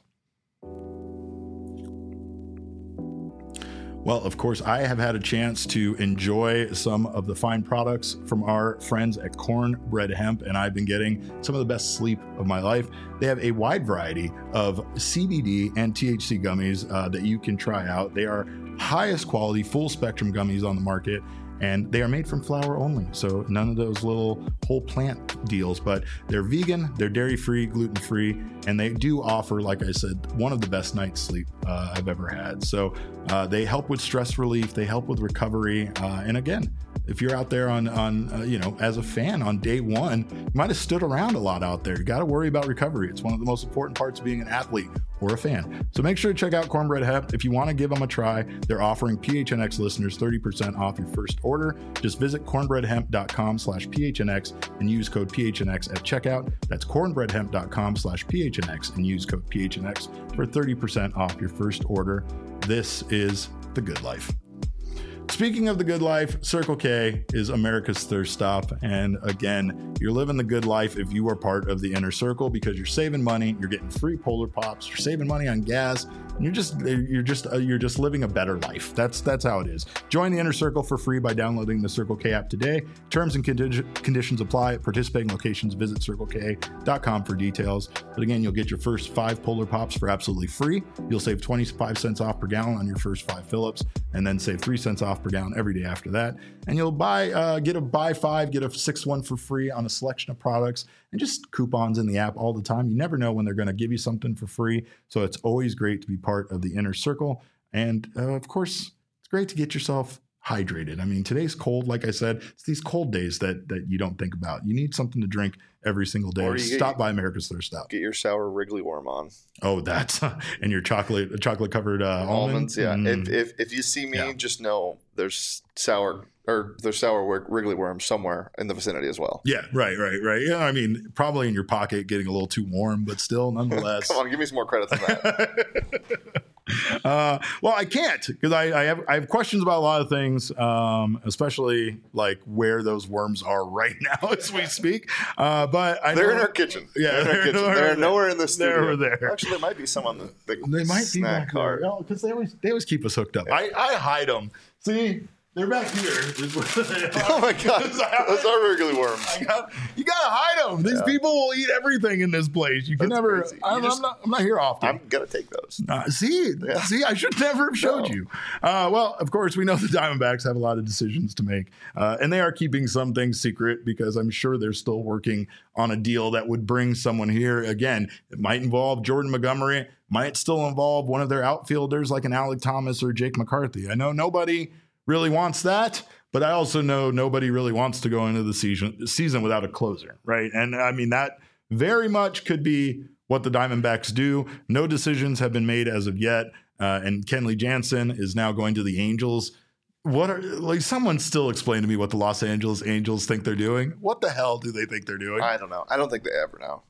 Speaker 1: Well, of course, I have had a chance to enjoy some of the fine products from our friends at Cornbread Hemp, and I've been getting some of the best sleep of my life. They have a wide variety of CBD and THC gummies that you can try out. They are highest quality, full spectrum gummies on the market, and they are made from flower only. So none of those little whole plant deals, but they're vegan, they're dairy-free, gluten-free, and they do offer, like I said, one of the best night's sleep I've ever had. So they help with stress relief, they help with recovery. And again, if you're out there on as a fan on day one, you might have stood around a lot out there. You got to worry about recovery. It's one of the most important parts of being an athlete or a fan. So make sure to check out Cornbread Hemp. If you want to give them a try, they're offering PHNX listeners 30% off your first order. Just visit cornbreadhemp.com/PHNX and use code PHNX at checkout. That's cornbreadhemp.com/PHNX and use code PHNX for 30% off your first order. This is the good life. Speaking of the good life, Circle K is America's thirst stop. And again, you're living the good life if you are part of the inner circle, because you're saving money, you're getting free Polar Pops, you're saving money on gas, and you're just living a better life. That's how it is. Join the inner circle for free by downloading the Circle K app today. Terms and conditions apply at participating locations. Visit CircleK.com for details. But again, you'll get your first 5 Polar Pops for absolutely free. You'll save 25 cents off per gallon on your first 5 fill-ups, and then save 3 cents off per gallon every day after that. And you'll get a buy 5, get a 6th one for free on a selection of products, and just coupons in the app all the time. You never know when they're going to give you something for free. So it's always great to be part of the inner circle. And of course, it's great to get yourself hydrated. I mean, today's cold. Like I said, it's these cold days that you don't think about. You need something to drink every single day. Stop by America's Thirst Stop.
Speaker 3: Get your sour Wrigley worm on.
Speaker 1: Oh, that's and your chocolate covered almonds.
Speaker 3: Yeah. If you see me, just know there's sour Wrigley worms somewhere in the vicinity as well.
Speaker 1: Yeah, right. Yeah, I mean, probably in your pocket, getting a little too warm, but still, nonetheless.
Speaker 3: Come on, give me some more credit than that.
Speaker 1: Well, I can't, because I have questions about a lot of things, especially like where those worms are right now as we speak. But
Speaker 3: they're in our kitchen.
Speaker 1: Yeah,
Speaker 3: they're nowhere in the studio.
Speaker 1: They're there.
Speaker 3: Actually, there might be some on the
Speaker 1: they might
Speaker 3: snack
Speaker 1: be
Speaker 3: cart.
Speaker 1: because they always keep us hooked up. Yeah. I hide them. See. They're back here.
Speaker 3: Oh my God! Those are Wrigley worms.
Speaker 1: You gotta hide them. These people will eat everything in this place. You can never. I'm not here often.
Speaker 3: I'm gonna take those.
Speaker 1: See, I should never have showed you. Well, of course, we know the Diamondbacks have a lot of decisions to make, and they are keeping some things secret because I'm sure they're still working on a deal that would bring someone here. Again, it might involve Jordan Montgomery. Might still involve one of their outfielders like an Alec Thomas or Jake McCarthy. I know nobody really wants that, but I also know nobody really wants to go into the season without a closer, right? And I mean, that very much could be what the Diamondbacks do. No decisions have been made as of yet, and Kenley Jansen is now going to the Angels. Someone still explain to me what the Los Angeles Angels think they're doing. What the hell do they think they're doing?
Speaker 3: I don't know. I don't think they ever know.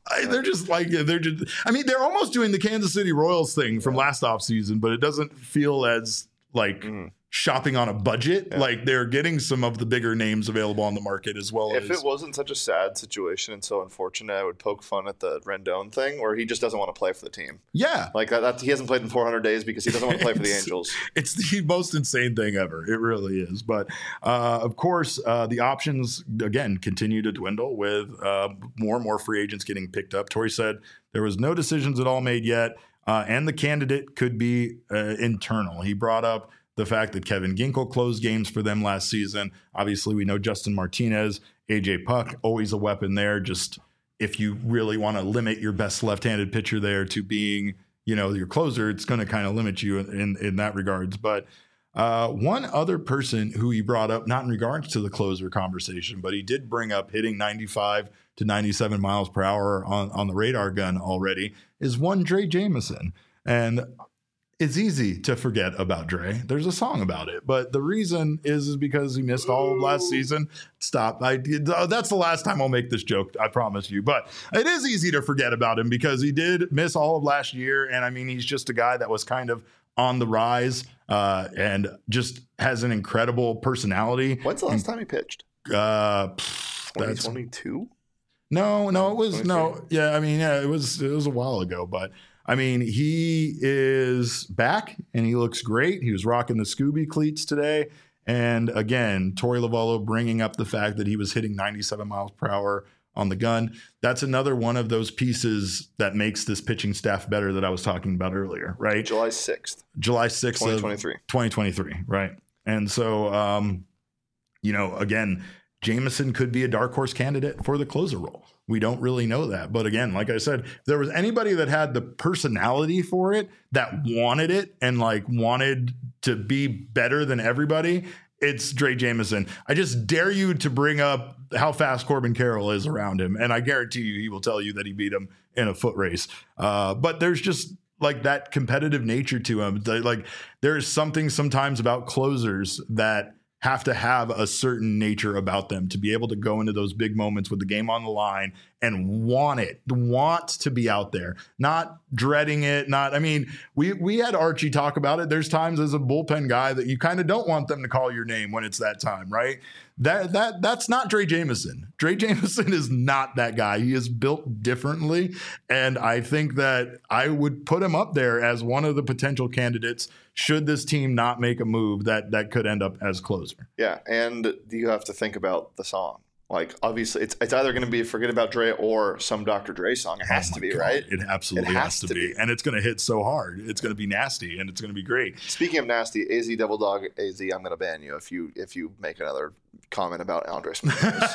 Speaker 1: I mean, they're almost doing the Kansas City Royals thing from last offseason, but it doesn't feel as like shopping on a budget. Yeah. Like they're getting some of the bigger names available on the market as well.
Speaker 3: If it wasn't such a sad situation and so unfortunate, I would poke fun at the Rendon thing where he just doesn't want to play for the team.
Speaker 1: Yeah.
Speaker 3: Like that he hasn't played in 400 days because he doesn't want to play for the Angels.
Speaker 1: It's the most insane thing ever. It really is. But of course, the options, again, continue to dwindle with more and more free agents getting picked up. Torey said there was no decisions at all made yet, and the candidate could be internal. He brought up the fact that Kevin Ginkel closed games for them last season. Obviously, we know Justin Martinez, AJ Puck, always a weapon there. Just if you really want to limit your best left-handed pitcher there to being, your closer, it's going to kind of limit you in that regards. But one other person who he brought up, not in regards to the closer conversation, but he did bring up hitting 95 to 97 miles per hour on the radar gun already, is one Drey Jameson. And it's easy to forget about Drey. There's a song about it, but the reason is because he missed all of last season. Stop. That's the last time I'll make this joke, I promise you. But it is easy to forget about him because he did miss all of last year. And I mean, he's just a guy that was kind of on the rise and just has an incredible personality.
Speaker 3: When's the last time he pitched? 2022?
Speaker 1: No, it was no. Yeah, I mean, it was a while ago, but I mean, he is back and he looks great. He was rocking the Scooby cleats today. And again, Torey Lovullo bringing up the fact that he was hitting 97 miles per hour on the gun. That's another one of those pieces that makes this pitching staff better that I was talking about earlier, right?
Speaker 3: July 6th.
Speaker 1: 2023, right? And so, again, Jameson could be a dark horse candidate for the closer role. We don't really know that. But again, like I said, if there was anybody that had the personality for it, that wanted it and wanted to be better than everybody, it's Drey Jameson. I just dare you to bring up how fast Corbin Carroll is around him. And I guarantee you, he will tell you that he beat him in a foot race. But there's just that competitive nature to him. There is something sometimes about closers that have to have a certain nature about them to be able to go into those big moments with the game on the line and want to be out there, not dreading it. We had Archie talk about it. There's times as a bullpen guy that you kind of don't want them to call your name when it's that time, right? That's not Drey Jameson. Drey Jameson is not that guy. He is built differently. And I think that I would put him up there as one of the potential candidates should this team not make a move that could end up as closer.
Speaker 3: Yeah, and you have to think about the song. Like, obviously, it's either going to be Forget About Dre or some Dr. Dre song. It has to be,
Speaker 1: God,
Speaker 3: right?
Speaker 1: It absolutely has to be. And it's going to hit so hard. It's going to be nasty, and it's going to be great.
Speaker 3: Speaking of nasty, AZ Devil Dog, AZ, I'm going to ban you if you make another comment about Andres Munoz.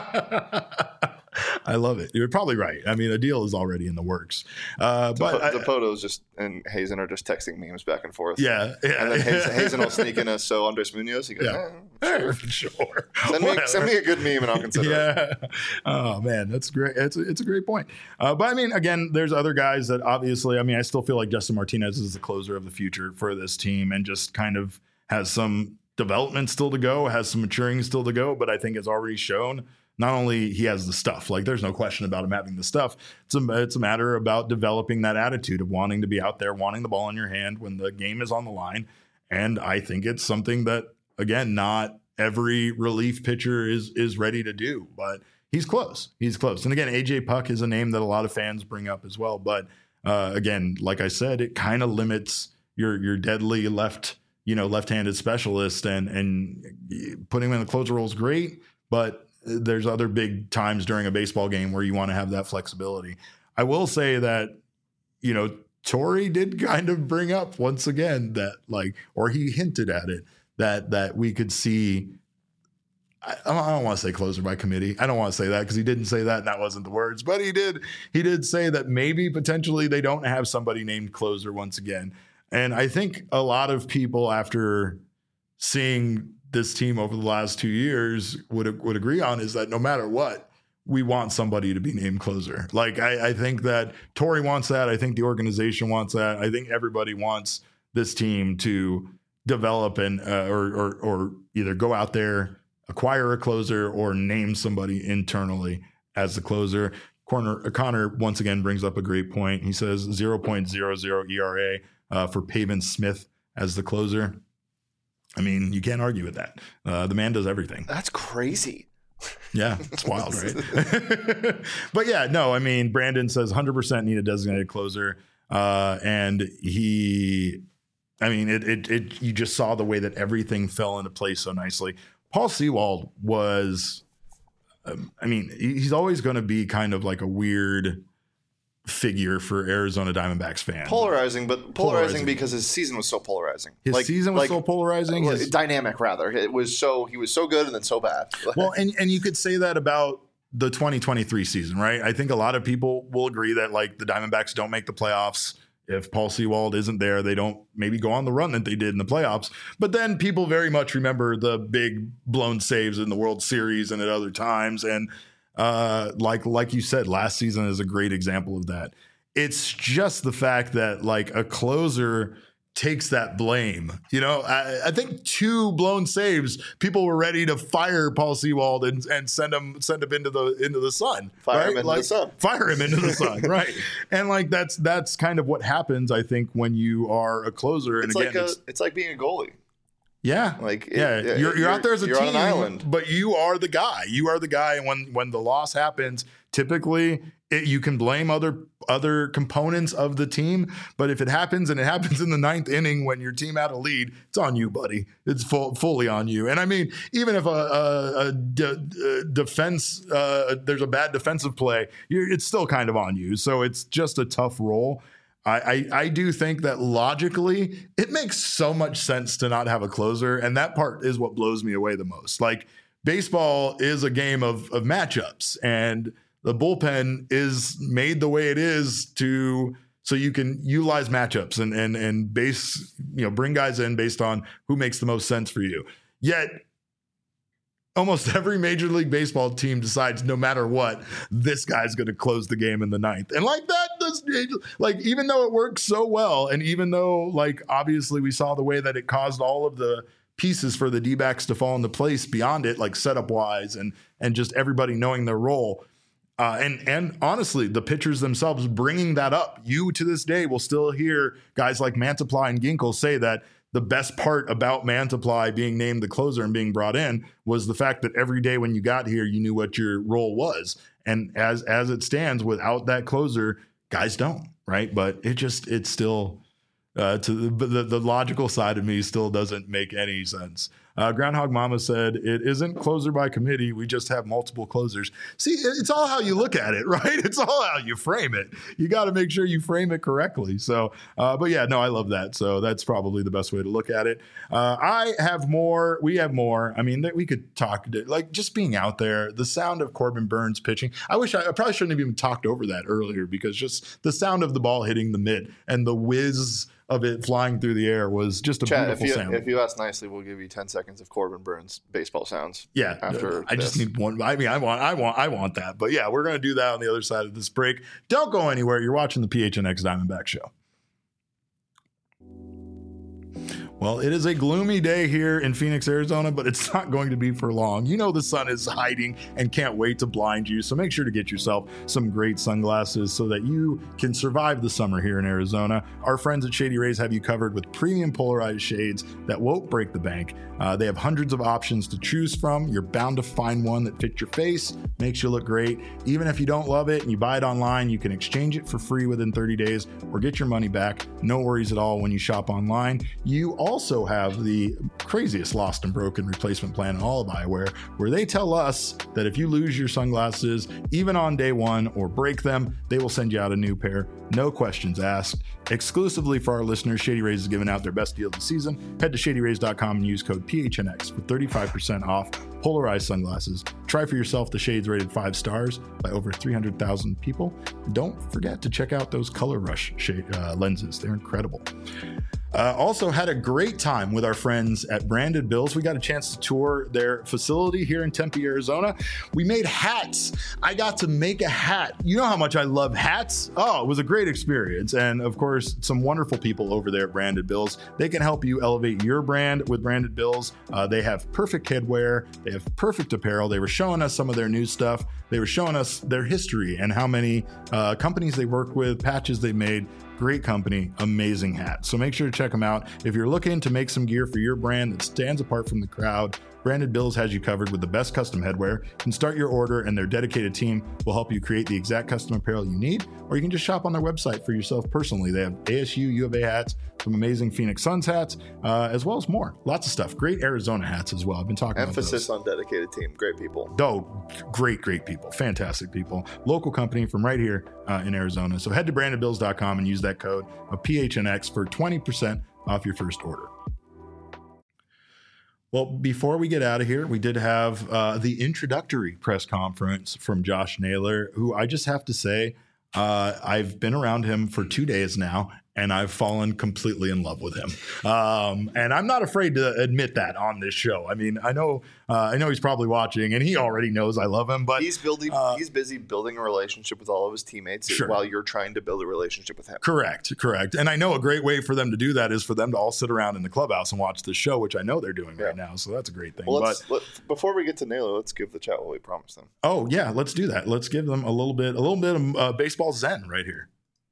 Speaker 1: I love it. You're probably right. I mean, a deal is already in the works. But
Speaker 3: the Potos and Hazen are just texting memes back and forth.
Speaker 1: Yeah.
Speaker 3: And then Hazen will sneak in so Andres Munoz. He goes,
Speaker 1: sure.
Speaker 3: Send me a good meme and I'll consider it.
Speaker 1: Oh, man, that's great. It's a great point. But I mean, again, there's other guys that obviously, I still feel like Justin Martinez is the closer of the future for this team and just kind of has some development still to go, has some maturing still to go, but I think it's already shown. Not only he has the stuff, like there's no question about him having the stuff. It's a matter about developing that attitude of wanting to be out there, wanting the ball in your hand when the game is on the line. And I think it's something that, again, not every relief pitcher is ready to do, but he's close. He's close. And again, AJ Puk is a name that a lot of fans bring up as well. But again, like I said, it kind of limits your deadly left-handed specialist, and putting him in the closer role is great, but there's other big times during a baseball game where you want to have that flexibility. I will say that, Torey did kind of bring up once again that or he hinted at it, that we could see, I don't want to say closer by committee. I don't want to say that because he didn't say that and that wasn't the words, but he did say that maybe potentially they don't have somebody named closer once again. And I think a lot of people, after seeing this team over the last 2 years, would agree on is that no matter what, we want somebody to be named closer. I think that Torey wants that. I think the organization wants that. I think everybody wants this team to develop and or either go out there, acquire a closer, or name somebody internally as the closer. Connor once again brings up a great point. He says 0.00 ERA for Pavin Smith as the closer. I mean, you can't argue with that. The man does everything.
Speaker 3: That's crazy.
Speaker 1: Yeah, it's wild, right? But yeah, no, Brandon says 100% need a designated closer. And you just saw the way that everything fell into place so nicely. Paul Sewald was, he's always going to be kind of like a weird figure for Arizona Diamondbacks fans.
Speaker 3: Polarizing because his season was so polarizing.
Speaker 1: His season was so polarizing.
Speaker 3: Dynamic, rather. He was so good and then so bad.
Speaker 1: Well, and you could say that about the 2023 season, right? I think a lot of people will agree that the Diamondbacks don't make the playoffs. If Paul Sewald isn't there, they don't maybe go on the run that they did in the playoffs. But then people very much remember the big blown saves in the World Series and at other times. And like you said, last season is a great example of that. It's just the fact that a closer takes that blame. I think 2 blown saves, people were ready to fire Paul Sewald and send him into the sun.
Speaker 3: Fire him into the sun.
Speaker 1: Fire him into the sun, right? And that's kind of what happens, I think, when you are a closer. And
Speaker 3: it's like being a goalie.
Speaker 1: Yeah. You're out there as a team,
Speaker 3: on an island,
Speaker 1: but you are the guy. You are the guy. And when the loss happens, typically you can blame other components of the team. But if it happens and it happens in the 9th inning when your team had a lead, it's on you, buddy. It's fully on you. And even if defense, there's a bad defensive play, it's still kind of on you. So it's just a tough role. I do think that logically it makes so much sense to not have a closer. And that part is what blows me away the most. Baseball is a game of matchups, and the bullpen is made the way it is so you can utilize matchups and bring guys in based on who makes the most sense for you. Yet almost every Major League Baseball team decides no matter what, this guy's going to close the game in the 9th. And even though it works so well, and even though obviously we saw the way that it caused all of the pieces for the D-backs to fall into place beyond it, like setup wise and just everybody knowing their role. And honestly, the pitchers themselves bringing that up. You to this day will still hear guys like Mantiply and Ginkel say that the best part about Mantiply being named the closer and being brought in was the fact that every day when you got here, you knew what your role was. And as it stands, without that closer, guys don't, right? But it's still the logical side of me still doesn't make any sense. Groundhog Mama said, it isn't closer by committee. We just have multiple closers. See, it's all how you look at it, right? It's all how you frame it. You got to make sure you frame it correctly. So, but yeah, no, I love that. So that's probably the best way to look at it. I have more. We have more. I mean, we could talk, like just being out there, the sound of Corbin Burns pitching. I probably shouldn't have even talked over that earlier, because just the sound of the ball hitting the mitt and the whiz of it flying through the air was just a beautiful sound.
Speaker 3: If you ask nicely, we'll give you 10 seconds of Corbin Burns baseball sounds.
Speaker 1: Yeah,
Speaker 3: after
Speaker 1: I just need one. I mean, I want that. But yeah, we're gonna do that on the other side of this break. Don't go anywhere. You're watching the PHNX Diamondback Show. Well, it is a gloomy day here in Phoenix, Arizona, but it's not going to be for long. You know the sun is hiding and can't wait to blind you, so make sure to get yourself some great sunglasses so that you can survive the summer here in Arizona. Our friends at Shady Rays have you covered with premium polarized shades that won't break the bank. They have hundreds of options to choose from. You're bound to find one that fits your face, makes you look great. Even if you don't love it and you buy it online, you can exchange it for free within 30 days or get your money back. No worries at all when you shop online. You also have the craziest lost and broken replacement plan in all of eyewear, where they tell us that if you lose your sunglasses, even on day one, or break them, they will send you out a new pair. No questions asked. Exclusively for our listeners, Shady Rays is giving out their best deal of the season. Head to shadyrays.com and use code PHNX for 35% off polarized sunglasses. Try for yourself the shades rated 5 stars by over 300,000 people. Don't forget to check out those Color Rush lenses. They're incredible. Also had a great time with our friends at Branded Bills. We got a chance to tour their facility here in Tempe, Arizona. We made hats. I got to make a hat. You know how much I love hats. Oh, it was a great experience. And of course, some wonderful people over there at Branded Bills. They can help you elevate your brand with Branded Bills. They have perfect headwear. They have perfect apparel. They were showing us some of their new stuff. They were showing us their history and how many companies they work with, patches they made. Great company, amazing hat. So make sure to check them out. If you're looking to make some gear for your brand that stands apart from the crowd, Branded Bills has you covered with the best custom headwear. You can start your order and their dedicated team will help you create the exact custom apparel you need, or you can just shop on their website for yourself personally. They have ASU, U of A hats, some amazing Phoenix Suns hats, as well as more. Lots of stuff. Great Arizona hats as well. I've been talking
Speaker 3: Emphasis
Speaker 1: about
Speaker 3: on dedicated team. Great people.
Speaker 1: Oh, great people. Fantastic people. Local company from right here in Arizona. So head to brandedbills.com and use that code of PHNX for 20% off your first order. Well, before we get out of here, we did have the introductory press conference from Josh Naylor, who I just have to say, I've been around him for 2 days now, and I've fallen completely in love with him. And I'm not afraid to admit that on this show. I mean, I know he's probably watching, and he already knows I love him. But
Speaker 3: he's busy building a relationship with all of his teammates while you're trying to build a relationship with him.
Speaker 1: Correct. And I know a great way for them to do that is for them to all sit around in the clubhouse and watch the show, which I know they're doing right now. So that's a great thing.
Speaker 3: Well, before we get to Naylor, let's give the chat what we promised them.
Speaker 1: Oh yeah, let's do that. Let's give them a little bit of baseball zen right here.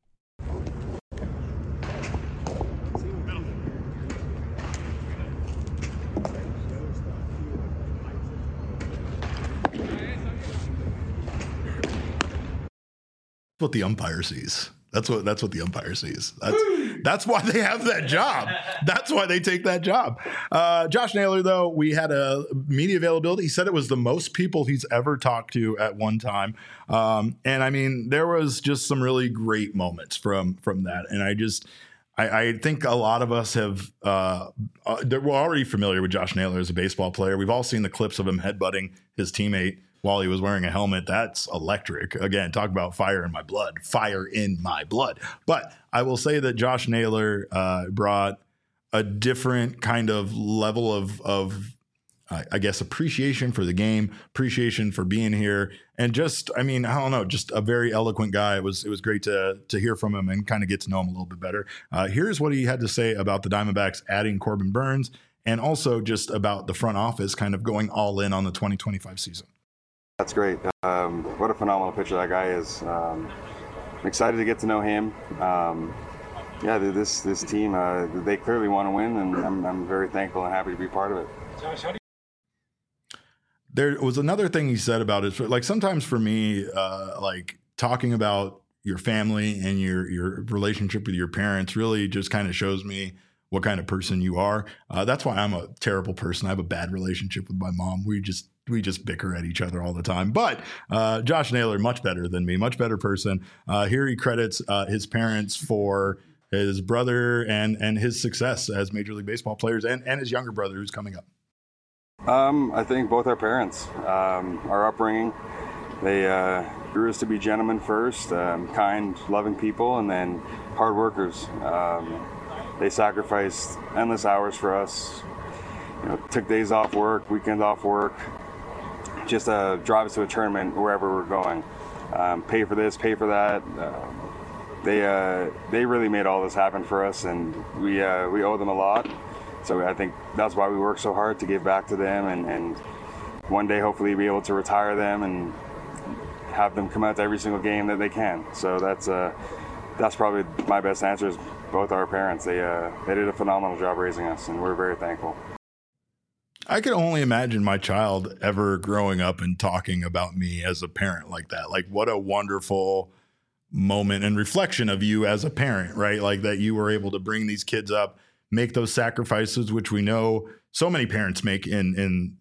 Speaker 1: What the umpire sees. That's what the umpire sees. That's why they have that job. That's why they take that job. Josh Naylor, though, we had a media availability. He said it was the most people he's ever talked to at one time. And I mean, there was just some really great moments from that. And I think a lot of us we're already familiar with Josh Naylor as a baseball player. We've all seen the clips of him headbutting his teammate while he was wearing a helmet. That's electric. Again, talk about fire in my blood. But I will say that Josh Naylor brought a different kind of level of I guess, appreciation for the game, appreciation for being here. And just, I mean, I don't know, just a very eloquent guy. It was great to hear from him and kind of get to know him a little bit better. Here's what he had to say about the Diamondbacks adding Corbin Burns and also just about the front office kind of going all in on the 2025 season.
Speaker 6: That's great. What a phenomenal pitcher that guy is. I'm excited to get to know him. This team, they clearly want to win, and I'm very thankful and happy to be part of it.
Speaker 2: Josh, how do
Speaker 1: There was another thing he said about it. Like sometimes for me, like talking about your family and your relationship with your parents really just kind of shows me what kind of person you are. That's why I'm a terrible person. I have a bad relationship with my mom. We just bicker at each other all the time. But Josh Naylor, much better than me, much better person. Here he credits his parents for his brother and his success as Major League Baseball players and his younger brother who's coming up.
Speaker 6: I think both our parents, our upbringing, they grew us to be gentlemen first, kind, loving people, and then hard workers. They sacrificed endless hours for us, took days off work, weekends off work, just drive us to a tournament wherever we're going. Pay for this, pay for that. They really made all this happen for us, and we owe them a lot. So I think that's why we work so hard to give back to them, and one day hopefully be able to retire them and have them come out to every single game that they can. So that's probably my best answer is both our parents. They did a phenomenal job raising us, and we're very thankful.
Speaker 1: I can only imagine my child ever growing up and talking about me as a parent like that. Like what a wonderful moment and reflection of you as a parent, right? Like that you were able to bring these kids up, make those sacrifices, which we know so many parents make in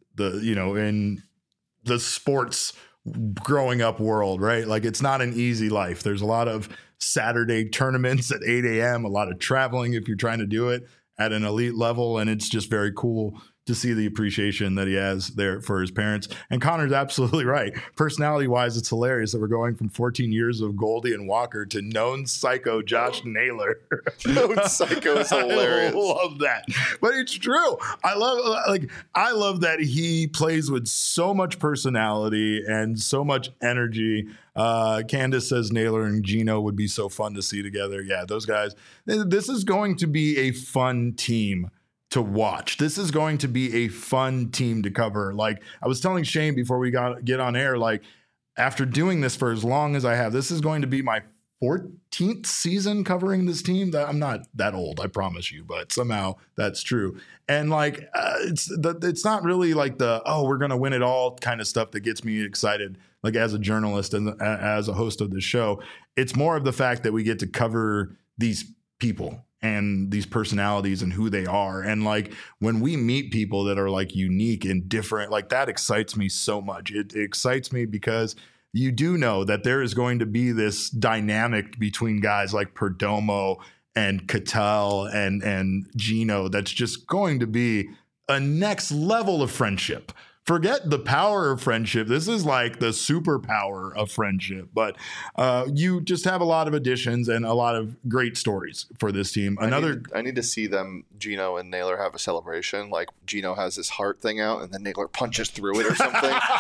Speaker 1: the sports growing up world, right? Like it's not an easy life. There's a lot of Saturday tournaments at 8 a.m., a lot of traveling if you're trying to do it at an elite level. And it's just very cool to see the appreciation that he has there for his parents. And Connor's absolutely right. Personality-wise, it's hilarious that we're going from 14 years of Goldie and Walker to known psycho Josh Naylor.
Speaker 3: Known psycho is hilarious.
Speaker 1: I love that. But it's true. I love that he plays with so much personality and so much energy. Candace says Naylor and Gino would be so fun to see together. Yeah, those guys. This is going to be a fun team to watch. This is going to be a fun team to cover. Like I was telling Shane before we get on air, like after doing this for as long as I have, this is going to be my 14th season covering this team. That I'm not that old, I promise you, but somehow that's true. And like it's not really like we're gonna win it all kind of stuff that gets me excited. Like as a journalist and as a host of this show, it's more of the fact that we get to cover these people and these personalities and who they are. And like when we meet people that are like unique and different, like that excites me so much. It excites me because you do know that there is going to be this dynamic between guys like Perdomo and Cattell and Gino that's just going to be a next level of friendship. Forget the power of friendship. This is like the superpower of friendship. But you just have a lot of additions and a lot of great stories for this team.
Speaker 3: I need to see them, Gino and Naylor, have a celebration. Like Gino has this heart thing out, and then Naylor punches through it or something.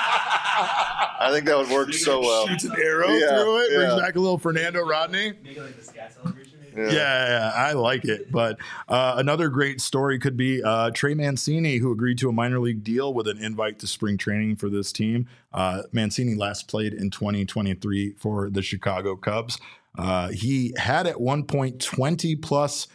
Speaker 3: I think that would work so well.
Speaker 1: Shoots an arrow through it, brings back a little Fernando Rodney.
Speaker 7: Make it like the scat celebration.
Speaker 1: Yeah, I like it. But another great story could be Trey Mancini, who agreed to a minor league deal with an invite to spring training for this team. Mancini last played in 2023 for the Chicago Cubs. He had at one point 20 plus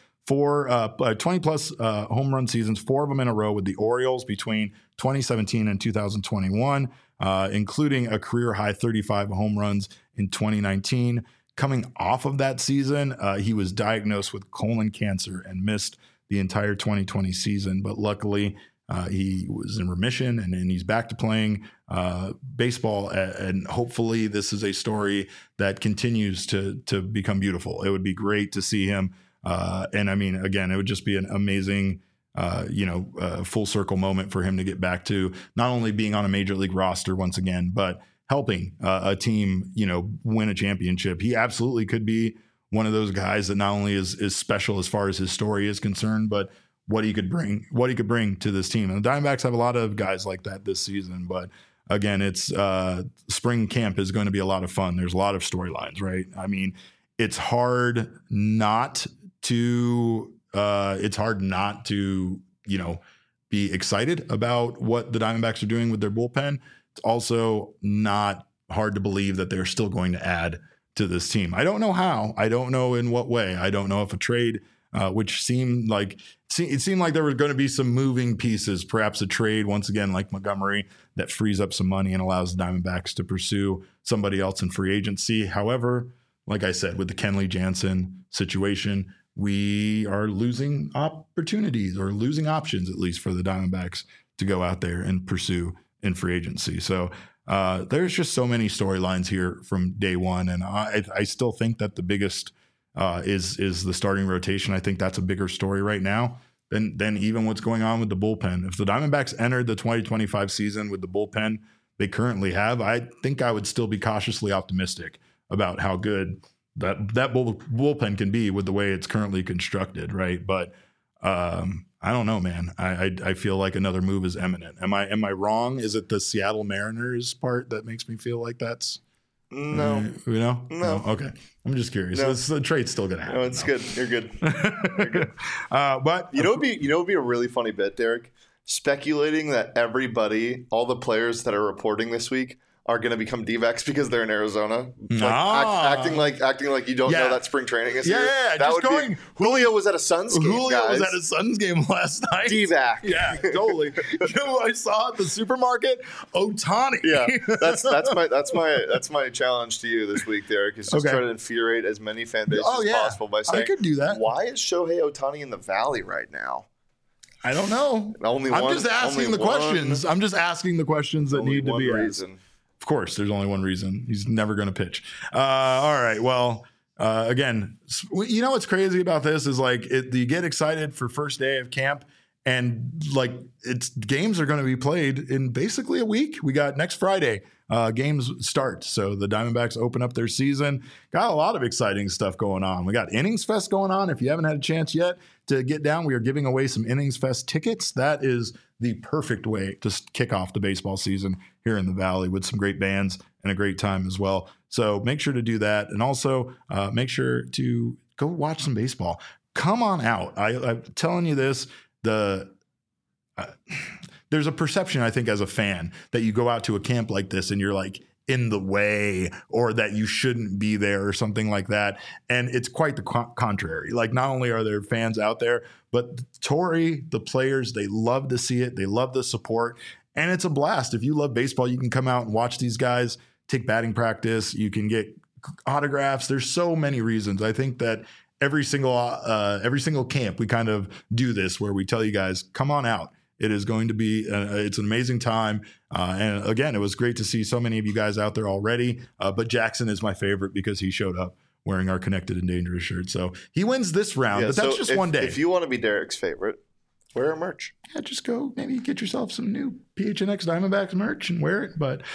Speaker 1: home run seasons, 4 of them in a row with the Orioles between 2017 and 2021, including a career high 35 home runs in 2019. Coming off of that season, he was diagnosed with colon cancer and missed the entire 2020 season. But luckily, he was in remission and he's back to playing baseball. And hopefully this is a story that continues to become beautiful. It would be great to see him. And I mean, again, it would just be an amazing full circle moment for him to get back to not only being on a major league roster once again, but helping a team, win a championship. He absolutely could be one of those guys that not only is special as far as his story is concerned, but what he could bring to this team. And the Diamondbacks have a lot of guys like that this season. But again, it's spring camp is going to be a lot of fun. There's a lot of storylines, right? I mean, it's hard not to be excited about what the Diamondbacks are doing with their bullpen. It's also not hard to believe that they're still going to add to this team. I don't know how. I don't know in what way. I don't know if a trade, which seemed like there were going to be some moving pieces, perhaps a trade once again like Montgomery that frees up some money and allows the Diamondbacks to pursue somebody else in free agency. However, like I said, with the Kenley Jansen situation, we are losing opportunities or losing options, at least for the Diamondbacks to go out there and pursue in free agency. So there's just so many storylines here from day one. And I still think that the biggest is the starting rotation. I think that's a bigger story right now than even what's going on with the bullpen. If the Diamondbacks entered the 2025 season with the bullpen they currently have, I think I would still be cautiously optimistic about how good that bullpen can be with the way it's currently constructed, right? But I don't know, man. I feel like another move is imminent. Am I wrong? Is it the Seattle Mariners part that makes me feel like that's
Speaker 3: no?
Speaker 1: No. Okay, I'm just curious.
Speaker 3: No.
Speaker 1: The trade's still gonna happen.
Speaker 3: No, it's good. You're good. You're good.
Speaker 1: But
Speaker 3: it would be a really funny bit, Derek, speculating that all the players that are reporting this week are going to become D-backs because they're in Arizona, acting like you don't know that spring training is here.
Speaker 1: Yeah,
Speaker 3: that would be. Julio was at a Suns game.
Speaker 1: Was at a Suns game last night.
Speaker 3: D-back.
Speaker 1: Yeah, totally. You know who I saw at the supermarket? Ohtani.
Speaker 3: Yeah, that's my challenge to you this week, Derek. Is just try to infuriate as many fan bases as possible by saying,
Speaker 1: I could do that.
Speaker 3: Why is Shohei Ohtani in the Valley right now?
Speaker 1: I don't know. I'm just asking the questions. I'm just asking the questions that need to be asked. Of course, there's only one reason. He's never going to pitch. All right. Well, again, you know what's crazy about this is you get excited for first day of camp, and games are going to be played in basically a week. We got next Friday. Games start. So the Diamondbacks open up their season. Got a lot of exciting stuff going on. We got Innings Fest going on. If you haven't had a chance yet to get down, we are giving away some Innings Fest tickets. That is the perfect way to kick off the baseball season here in the Valley with some great bands and a great time as well. So make sure to do that. And also make sure to go watch some baseball. Come on out. I'm telling you this, there's a perception, I think, as a fan that you go out to a camp like this and you're like in the way or that you shouldn't be there or something like that. And it's quite the contrary. Not only are there fans out there, but Torey, the players, they love to see it. They love the support. And it's a blast. If you love baseball, you can come out and watch these guys take batting practice. You can get autographs. There's so many reasons. I think that every single camp, we kind of do this where we tell you guys, come on out. It is going to be, it's an amazing time. And again, it was great to see so many of you guys out there already. But Jackson is my favorite because he showed up wearing our Connected and Dangerous shirt. So he wins this round, but that's just one day. If
Speaker 3: you want to be Derek's favorite, wear our merch.
Speaker 1: Yeah, just go maybe get yourself some new PHNX Diamondbacks merch and wear it. But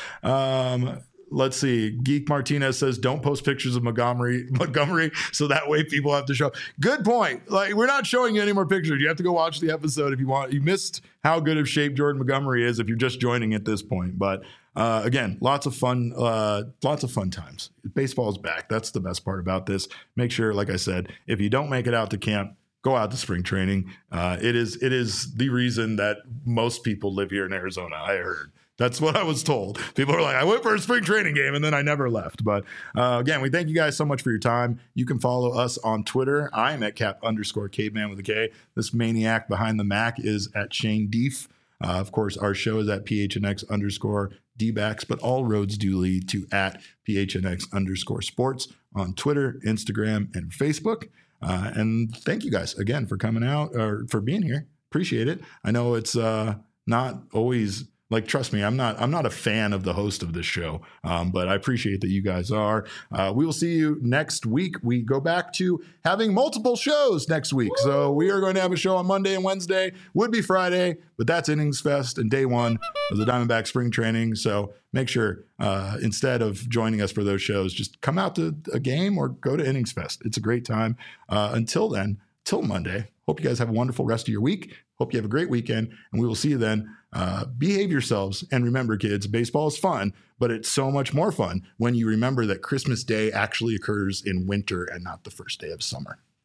Speaker 1: let's see. Geek Martinez says, don't post pictures of Montgomery so that way people have to show up. Good point. We're not showing you any more pictures. You have to go watch the episode if you want. You missed how good of shape Jordan Montgomery is if you're just joining at this point. But again, lots of fun times. Baseball is back. That's the best part about this. Make sure, like I said, if you don't make it out to camp, go out to spring training. It is the reason that most people live here in Arizona, I heard. That's what I was told. People are like, I went for a spring training game and then I never left. But again, we thank you guys so much for your time. You can follow us on Twitter. I'm at @cap_caveman with a K. This maniac behind the Mac is at Shane Deef. Of course, our show is at PHNX_DBacks, but all roads do lead to at PHNX_sports on Twitter, Instagram, and Facebook. And thank you guys again for coming out or for being here. Appreciate it. I know it's not always trust me, I'm not a fan of the host of this show, but I appreciate that you guys are. We will see you next week. We go back to having multiple shows next week. So we are going to have a show on Monday and Wednesday. Would be Friday, but that's Innings Fest and day one of the Diamondback spring training. So make sure instead of joining us for those shows, just come out to a game or go to Innings Fest. It's a great time. Until then, till Monday, hope you guys have a wonderful rest of your week. Hope you have a great weekend, and we will see you then. Behave yourselves, and remember, kids, baseball is fun, but it's so much more fun when you remember that Christmas Day actually occurs in winter and not the first day of summer.